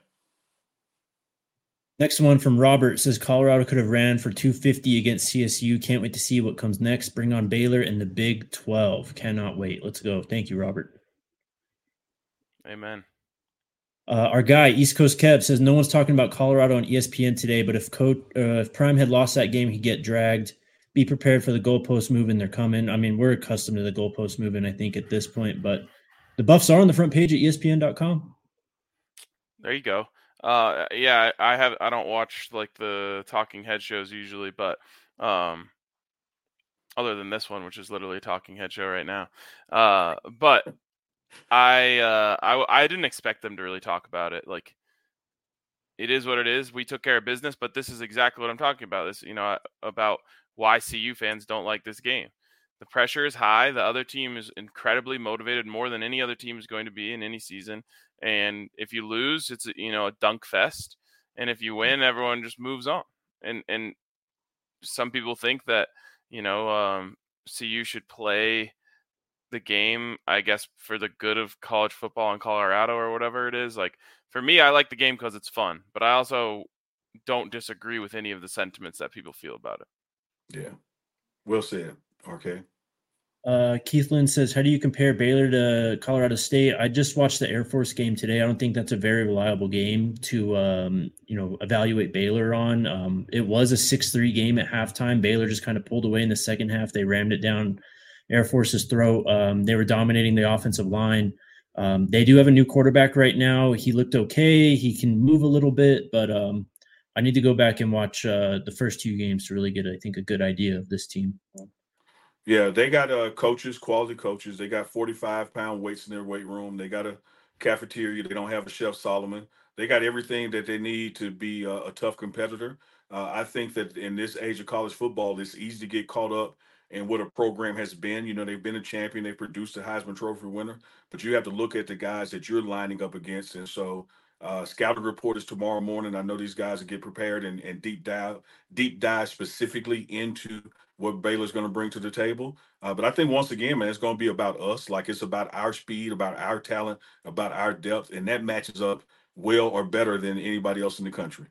Next one from Robert says Colorado could have ran for two fifty against C S U. Can't wait to see what comes next. Bring on Baylor in the Big twelve. Cannot wait. Let's go. Thank you, Robert. Amen. Uh, our guy, East Coast Kev, says no one's talking about Colorado on E S P N today, but if Coach, uh, if Prime had lost that game, he'd get dragged. Be prepared for the goalpost moving. They're coming. I mean, we're accustomed to the goalpost moving, I think, at this point, but the Buffs are on the front page at E S P N dot com. There you go. Uh, yeah, I have. I don't watch like the talking head shows usually, but um, other than this one, which is literally a talking head show right now. Uh, but I, uh, I I didn't expect them to really talk about it. Like, it is what it is. We took care of business, but this is exactly what I'm talking about. This, you know, about why C U fans don't like this game. The pressure is high. The other team is incredibly motivated, more than any other team is going to be in any season. And if you lose, it's, you know, a dunk fest. And if you win, everyone just moves on. And and some people think that, you know, um, C U should play the game, I guess, for the good of college football in Colorado or whatever it is. Like, for me, I like the game because it's fun, but I also don't disagree with any of the sentiments that people feel about it. Yeah. Well said. Okay. Uh, Keith Lynn says, how do you compare Baylor to Colorado State? I just watched the Air Force game today. I don't think that's a very reliable game to, um, you know, evaluate Baylor on. Um, it was a six three game at halftime. Baylor just kind of pulled away in the second half. They rammed it down Air Force's throat. Um, they were dominating the offensive line. Um, they do have a new quarterback right now. He looked okay. He can move a little bit, but um, I need to go back and watch uh, the first two games to really get, I think, a good idea of this team. Yeah, they got uh, coaches, quality coaches. They got forty-five pound weights in their weight room. They got a cafeteria. They don't have a Chef Solomon. They got everything that they need to be a, a tough competitor. Uh, I think that in this age of college football, it's easy to get caught up in what a program has been. You know, they've been a champion. They produced a Heisman Trophy winner. But you have to look at the guys that you're lining up against. And so uh, scouting report is tomorrow morning. I know these guys will get prepared and, and deep dive, deep dive specifically into what Baylor's going to bring to the table. Uh, but I think once again, man, it's going to be about us. Like, it's about our speed, about our talent, about our depth, and that matches up well or better than anybody else in the country.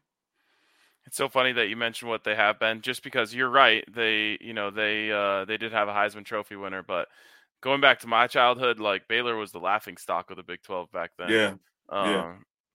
It's so funny that you mentioned what they have been, just because you're right. They, you know, they uh, they did have a Heisman Trophy winner, but going back to my childhood, like, Baylor was the laughing stock of the Big twelve back then. Yeah, Um, yeah.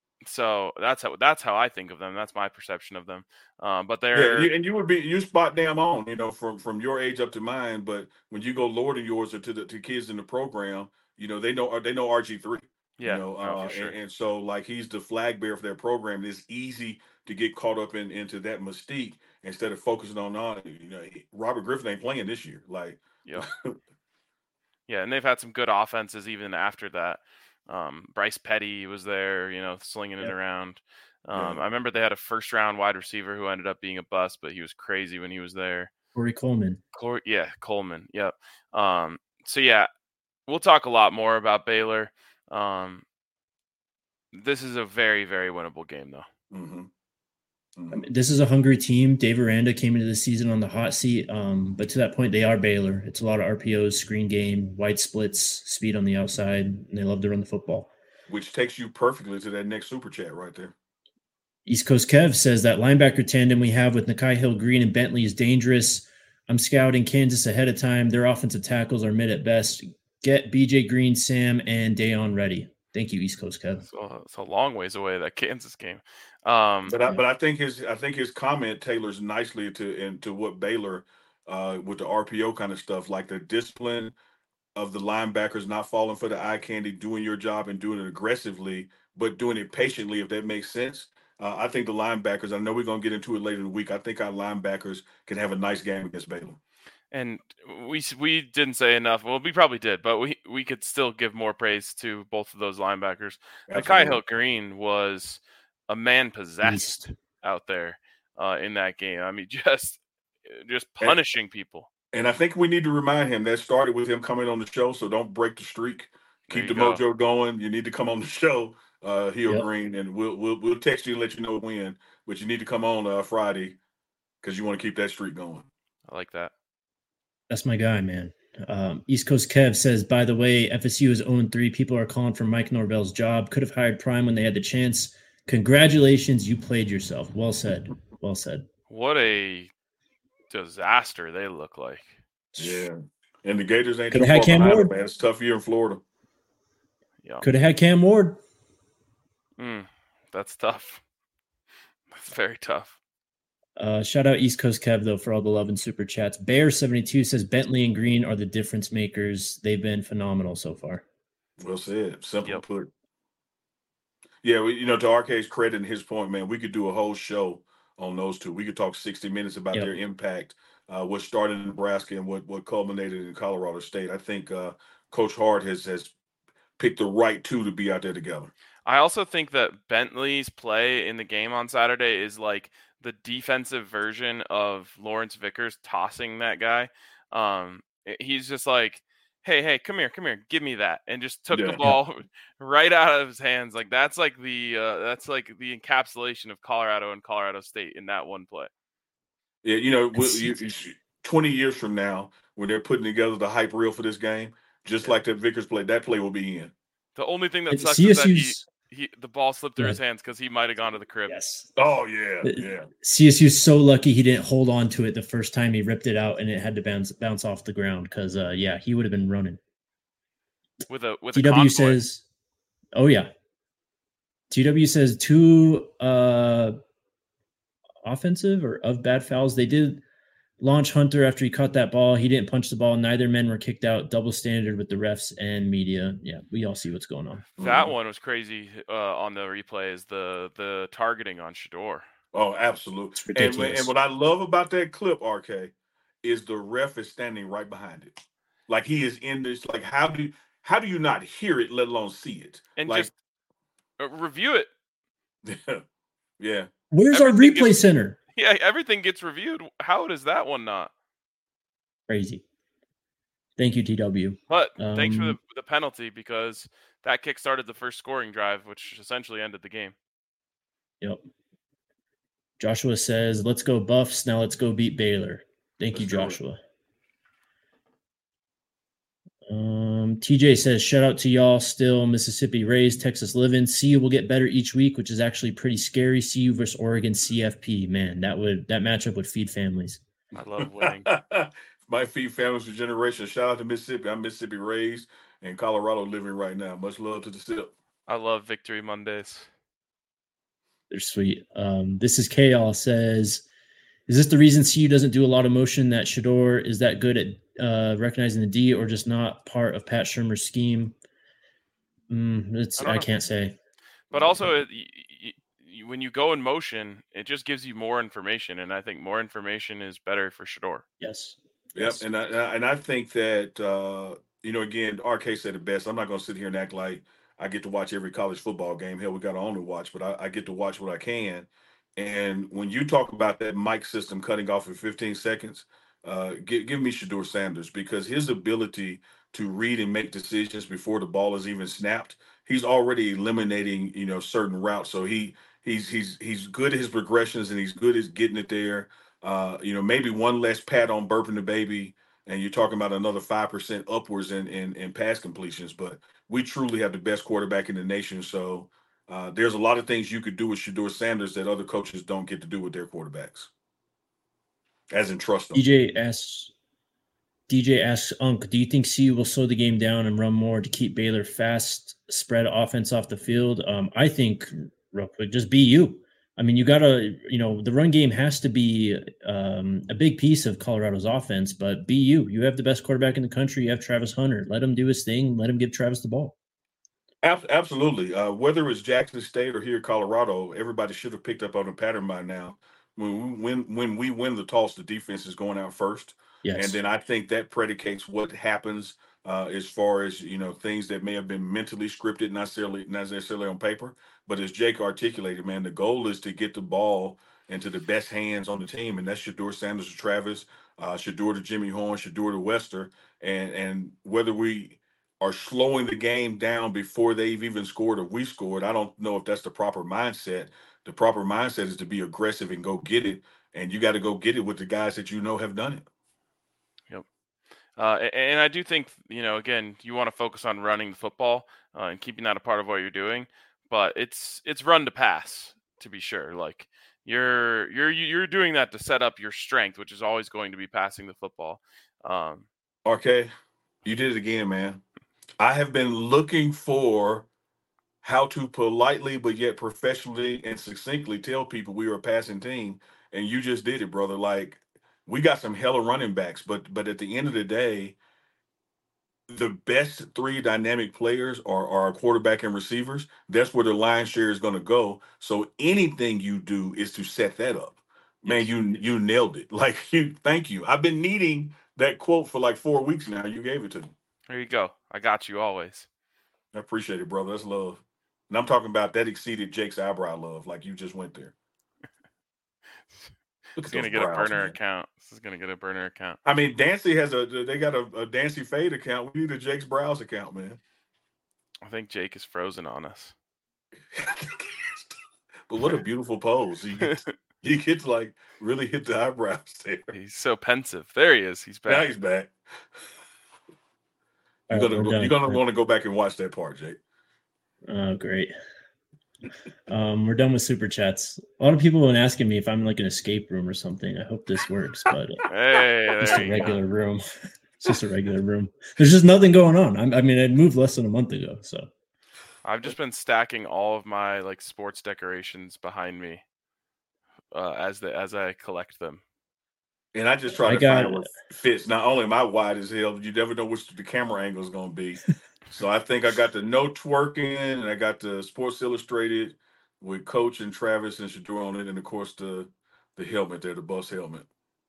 So that's how that's how I think of them. That's my perception of them. Um, but Yeah, they're you, and you would be you spot damn on, you know, from from your age up to mine. But when you go lower than yours or to the to kids in the program, you know, they know they know R G three. You yeah, know, no, uh, for sure. and, and so like he's the flag bearer for their program. It's easy to get caught up in into that mystique instead of focusing on on you know Robert Griffin ain't playing this year. Like, Yeah, yeah, and they've had some good offenses even after that. Um, Bryce Petty was there, you know, slinging it Yep. around. Um, Yeah. I remember they had a first round wide receiver who ended up being a bust, but he was crazy when he was there. Corey Coleman. Cor- yeah, Coleman. Yep. Um, so yeah, we'll talk a lot more about Baylor. Um, this is a very, very winnable game, though. Mm-hmm. Mm-hmm. I mean, this is a hungry team. Dave Aranda came into the season on the hot seat, um, but to that point, they are Baylor. It's a lot of R P Os, screen game, wide splits, speed on the outside, and they love to run the football. Which takes you perfectly to that next super chat right there. East Coast Kev says that linebacker tandem we have with Nakai Hill-Green and Bentley is dangerous. I'm scouting Kansas ahead of time. Their offensive tackles are mid at best. Get B J Green, Sam, and Dayon ready. Thank you, East Coast Kev. So it's a long ways away, that Kansas game. Um, but I, but I think his I think his comment tailors nicely to into what Baylor uh, with the R P O kind of stuff, like the discipline of the linebackers not falling for the eye candy, doing your job and doing it aggressively, but doing it patiently, if that makes sense. Uh, I think the linebackers, I know we're going to get into it later in the week. I think our linebackers can have a nice game against Baylor. And we we didn't say enough. Well, we probably did, but we, we could still give more praise to both of those linebackers. Nakai Hill-Green was a man possessed Beast. out there uh, in that game. I mean, just just punishing and, people. And I think we need to remind him that started with him coming on the show. So don't break the streak. Keep the go. mojo going. You need to come on the show, uh, Hill-Green, yep. and we'll we'll we'll text you and let you know when. But you need to come on uh, Friday because you want to keep that streak going. I like that. That's my guy, man. Um, East Coast Kev says, by the way, F S U is oh and three. People are calling for Mike Norvell's job. Could have hired Prime when they had the chance. Congratulations, you played yourself. Well said. Well said. What a disaster they look like. Yeah. And the Gators ain't Could too have far had Cam behind Ward. them, man. It's a tough year in Florida. Yeah. Could have had Cam Ward. Mm, that's tough. That's very tough. Uh, shout out East Coast Kev, though, for all the love and super chats. Bear seventy-two says Bentley and Green are the difference makers. They've been phenomenal so far. Well said. Simple yep. put. Yeah, we, you know, to R K's credit and his point, man, we could do a whole show on those two. We could talk sixty minutes about yep. their impact, uh, what started in Nebraska and what, what culminated in Colorado State. I think uh, Coach Hart has has picked the right two to be out there together. I also think that Bentley's play in the game on Saturday is like the defensive version of Lawrence Vickers tossing that guy. Um, he's just like, hey, hey, come here, come here, give me that, and just took Yeah. the ball right out of his hands. Like that's like the uh, that's like the encapsulation of Colorado and Colorado State in that one play. Yeah, you know, we- It's- you, you- twenty years from now, when they're putting together the hype reel for this game, just Yeah. like that Vickers play, that play will be in. The only thing that it's sucks is that he, C S U's he the ball slipped through Go his ahead. hands because he might have gone to the crib. Yes. Oh yeah, Uh, yeah. C S U's so lucky he didn't hold on to it the first time he ripped it out and it had to bounce bounce off the ground because uh yeah, he would have been running. With a with T a W convoy. says, oh yeah. T W says two uh offensive or of bad fouls. They did launch Hunter after he caught that ball. He didn't punch the ball. Neither men were kicked out. Double standard with the refs and media. Yeah, we all see what's going on. That Mhm. one was crazy uh, on the replay is the the targeting on Shador. Oh, absolutely. It's And, when- ridiculous. and what I love about that clip, R K, is the ref is standing right behind it. Like he is in this. Like how do how do you not hear it, let alone see it? And like just uh, review it. yeah. Where's our everything replay gets- center? Yeah, everything gets reviewed. How does that one not? Crazy. Thank you, T W. But thanks for the, Um, the penalty because that kick started the first scoring drive, which essentially ended the game. Yep. Joshua says, let's go Buffs. Now let's go beat Baylor. Thank you, Let's do it. Joshua. Um, T J says, shout out to y'all. Still Mississippi raised, Texas living. C U will get better each week, which is actually pretty scary. C U versus Oregon C F P. Man, that would that matchup would feed families. I love winning. My feed families for generations. Shout out to Mississippi. I'm Mississippi raised and Colorado living right now. Much love to the sip. I love Victory Mondays. They're sweet. Um, this is K All says, is this the reason C U doesn't do a lot of motion that Shador is that good at uh, recognizing the D or just not part of Pat Shermer's scheme? Mm, it's I don't I, know. can't say. But also, it, y- y- y- when you go in motion, it just gives you more information, and I think more information is better for Shador. Yes. Yep, Yes. and I and I- and I think that uh, you know, again, R K said it best. I'm not going to sit here and act like I get to watch every college football game. Hell, we got to only watch, but I, I get to watch what I can. And when you talk about that mic system cutting off in fifteen seconds, uh, give, give me Shador Sanders because his ability to read and make decisions before the ball is even snapped, he's already eliminating you know certain routes. So he he's he's he's good at his progressions and he's good at getting it there. Uh, you know, maybe one less pat on burping the baby, and you're talking about another five percent upwards in, in in pass completions. But we truly have the best quarterback in the nation. So uh, there's a lot of things you could do with Shador Sanders that other coaches don't get to do with their quarterbacks, as in trust them. D J asks, D J asks Unk, do you think C U will slow the game down and run more to keep Baylor fast, spread offense off the field? Um, I think, real quick, just be you. I mean, you got to, you know, the run game has to be um, a big piece of Colorado's offense, but be you. You have the best quarterback in the country. You have Travis Hunter. Let him do his thing. Let him give Travis the ball. Ab- Absolutely. Uh, whether it's Jackson State or here Colorado, everybody should have picked up on the pattern by now. When we win, when we win the toss, the defense is going out first. Yes. And then I think that predicates what happens uh, as far as you know things that may have been mentally scripted, not necessarily not necessarily on paper. But as Jake articulated, man, the goal is to get the ball into the best hands on the team, and that's Shador Sanders to Travis, uh, Shador to Jimmy Horn, Shador to Wester, and and whether we are slowing the game down before they've even scored or we scored, I don't know if that's the proper mindset. The proper mindset is to be aggressive and go get it, and you got to go get it with the guys that you know have done it. Yep. Uh, a- and I do think, you know, again, you want to focus on running the football uh, and keeping that a part of what you're doing. But it's it's run to pass, to be sure. Like you're you're you're doing that to set up your strength, which is always going to be passing the football. Um, Okay, you did it again, man. I have been looking for how to politely but yet professionally and succinctly tell people we were a passing team, and you just did it, brother. Like we got some hella running backs, but but at the end of the day, the best three dynamic players are, are quarterback and receivers. That's where the line share is going to go. So anything you do is to set that up. Man, Yes. you you nailed it. Like you, thank you. I've been needing that quote for like four weeks now. You gave it to me. there you go. I got you always. I appreciate it, brother. That's love. And I'm talking about that exceeded Jake's eyebrow love. Like you just went there. He's gonna get Browns, a burner man. account. This is gonna get a burner account. I mean, Dancy has a. They got a, a Dancy Fade account. We need a Jake's Browse account, man. I think Jake is frozen on us. But what a beautiful pose! You get, to, you get to like really hit the eyebrows there. He's so pensive. There he is. He's back. Now he's back. You're right, gonna you're gonna want to go back and watch that part, Jake. Oh, great. Um, we're done with super chats. A lot of people have been asking me if I'm like an escape room or something. I hope this works, but uh, hey, just a regular go. room. It's just a regular room. There's just nothing going on. I'm, I mean, I moved less than a month ago, so I've just been stacking all of my like sports decorations behind me uh, as the as I collect them. And I just try I to got, find what fits. Not only am I wide as hell, you never know which the camera angle is going to be. So I think I got the no twerking, and I got the Sports Illustrated with Coach and Travis and Shedeur on it, and of course the the helmet there, the bus helmet.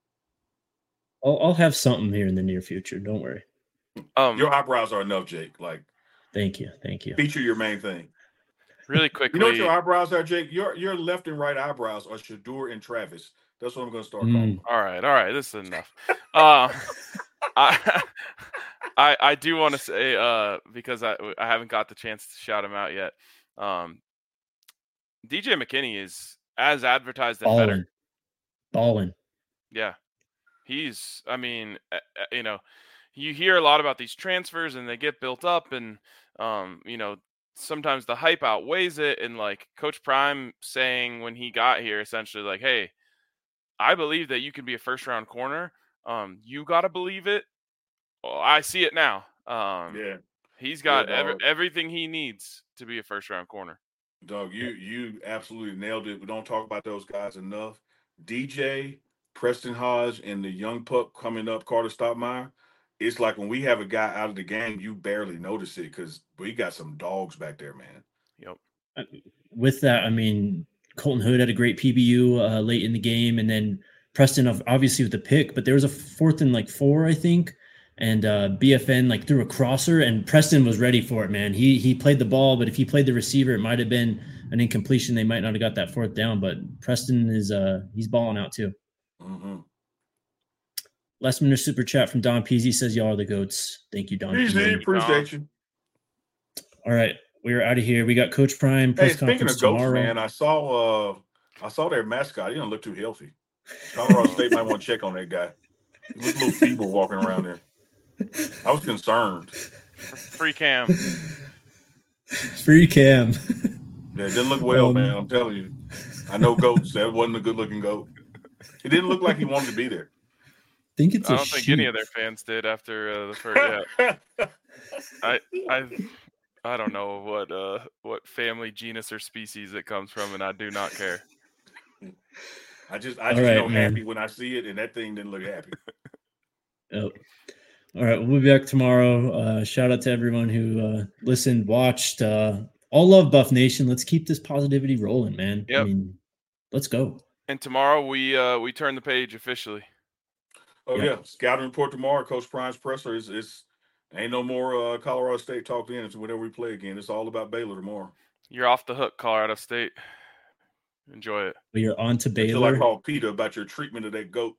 I'll, I'll have something here in the near future. Don't worry. Um, your eyebrows are enough, Jake. Like, thank you, thank you. Feature your main thing. Really quickly, you know what your eyebrows are, Jake? Your your left and right eyebrows are Shedeur and Travis. That's what I'm going to start calling. Mm. All right, all right. This is enough. uh, I, I I do want to say uh, because I I haven't got the chance to shout him out yet. Um, D J McKinney is as advertised and Ballin'. better. Ballin'. Yeah, he's. I mean, uh, you know, you hear a lot about these transfers and they get built up, and um, you know, sometimes the hype outweighs it. And like Coach Prime saying when he got here, essentially like, hey, I believe that you can be a first round corner. Um, you got to believe it. Well, I see it now. Um, yeah. He's got yeah, every, everything he needs to be a first round corner. Dog, you you absolutely nailed it. We don't talk about those guys enough. D J, Preston Hodge, and the young pup coming up, Carter Stottmeyer. It's like when we have a guy out of the game, you barely notice it because we got some dogs back there, man. Yep. With that, I mean, Colton Hood had a great P B U uh, late in the game, and then Preston obviously with the pick, but there was a fourth and like four, I think, and uh, B F N like threw a crosser, and Preston was ready for it, man. He he played the ball, but if he played the receiver, it might have been an incompletion. They might not have got that fourth down, but Preston is uh he's balling out too. Mm-hmm. Last minute super chat from Don Peasy says y'all are the goats. Thank you, Don. Easy, appreciate you. All right. We're out of here. We got Coach Prime press hey, speaking conference of goats, tomorrow. man, I saw uh I saw their mascot. He don't look too healthy. Colorado State might want to check on that guy. He looks a little feeble walking around there. I was concerned. Free Cam. Free Cam. Yeah, it didn't look well, um, man. I'm telling you. I know goats. That wasn't a good looking goat. It didn't look like he wanted to be there. I think it's I a don't think sheep. any of their fans did after uh, the first. Yeah. I I I don't know what uh what family, genus, or species it comes from, and I do not care. I just I just right, know man. happy when I see it, and that thing didn't look happy. Yep. All right, we'll be back tomorrow. Uh, shout out to everyone who uh, listened, watched. Uh, all love Buff Nation. Let's keep this positivity rolling, man. Yep. I mean, let's go. And tomorrow we uh, we turn the page officially. Oh Yep. yeah, scouting report tomorrow. Coach Prime's presser is it's ain't no more uh, Colorado State talk in. It's whenever we play again. It's all about Baylor tomorrow. You're off the hook, Colorado State. Enjoy it. We are on to Until Baylor. I call Peter about your treatment of that goat.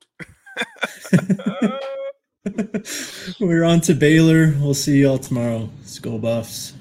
We're on to Baylor. We'll see y'all tomorrow. Skull Buffs.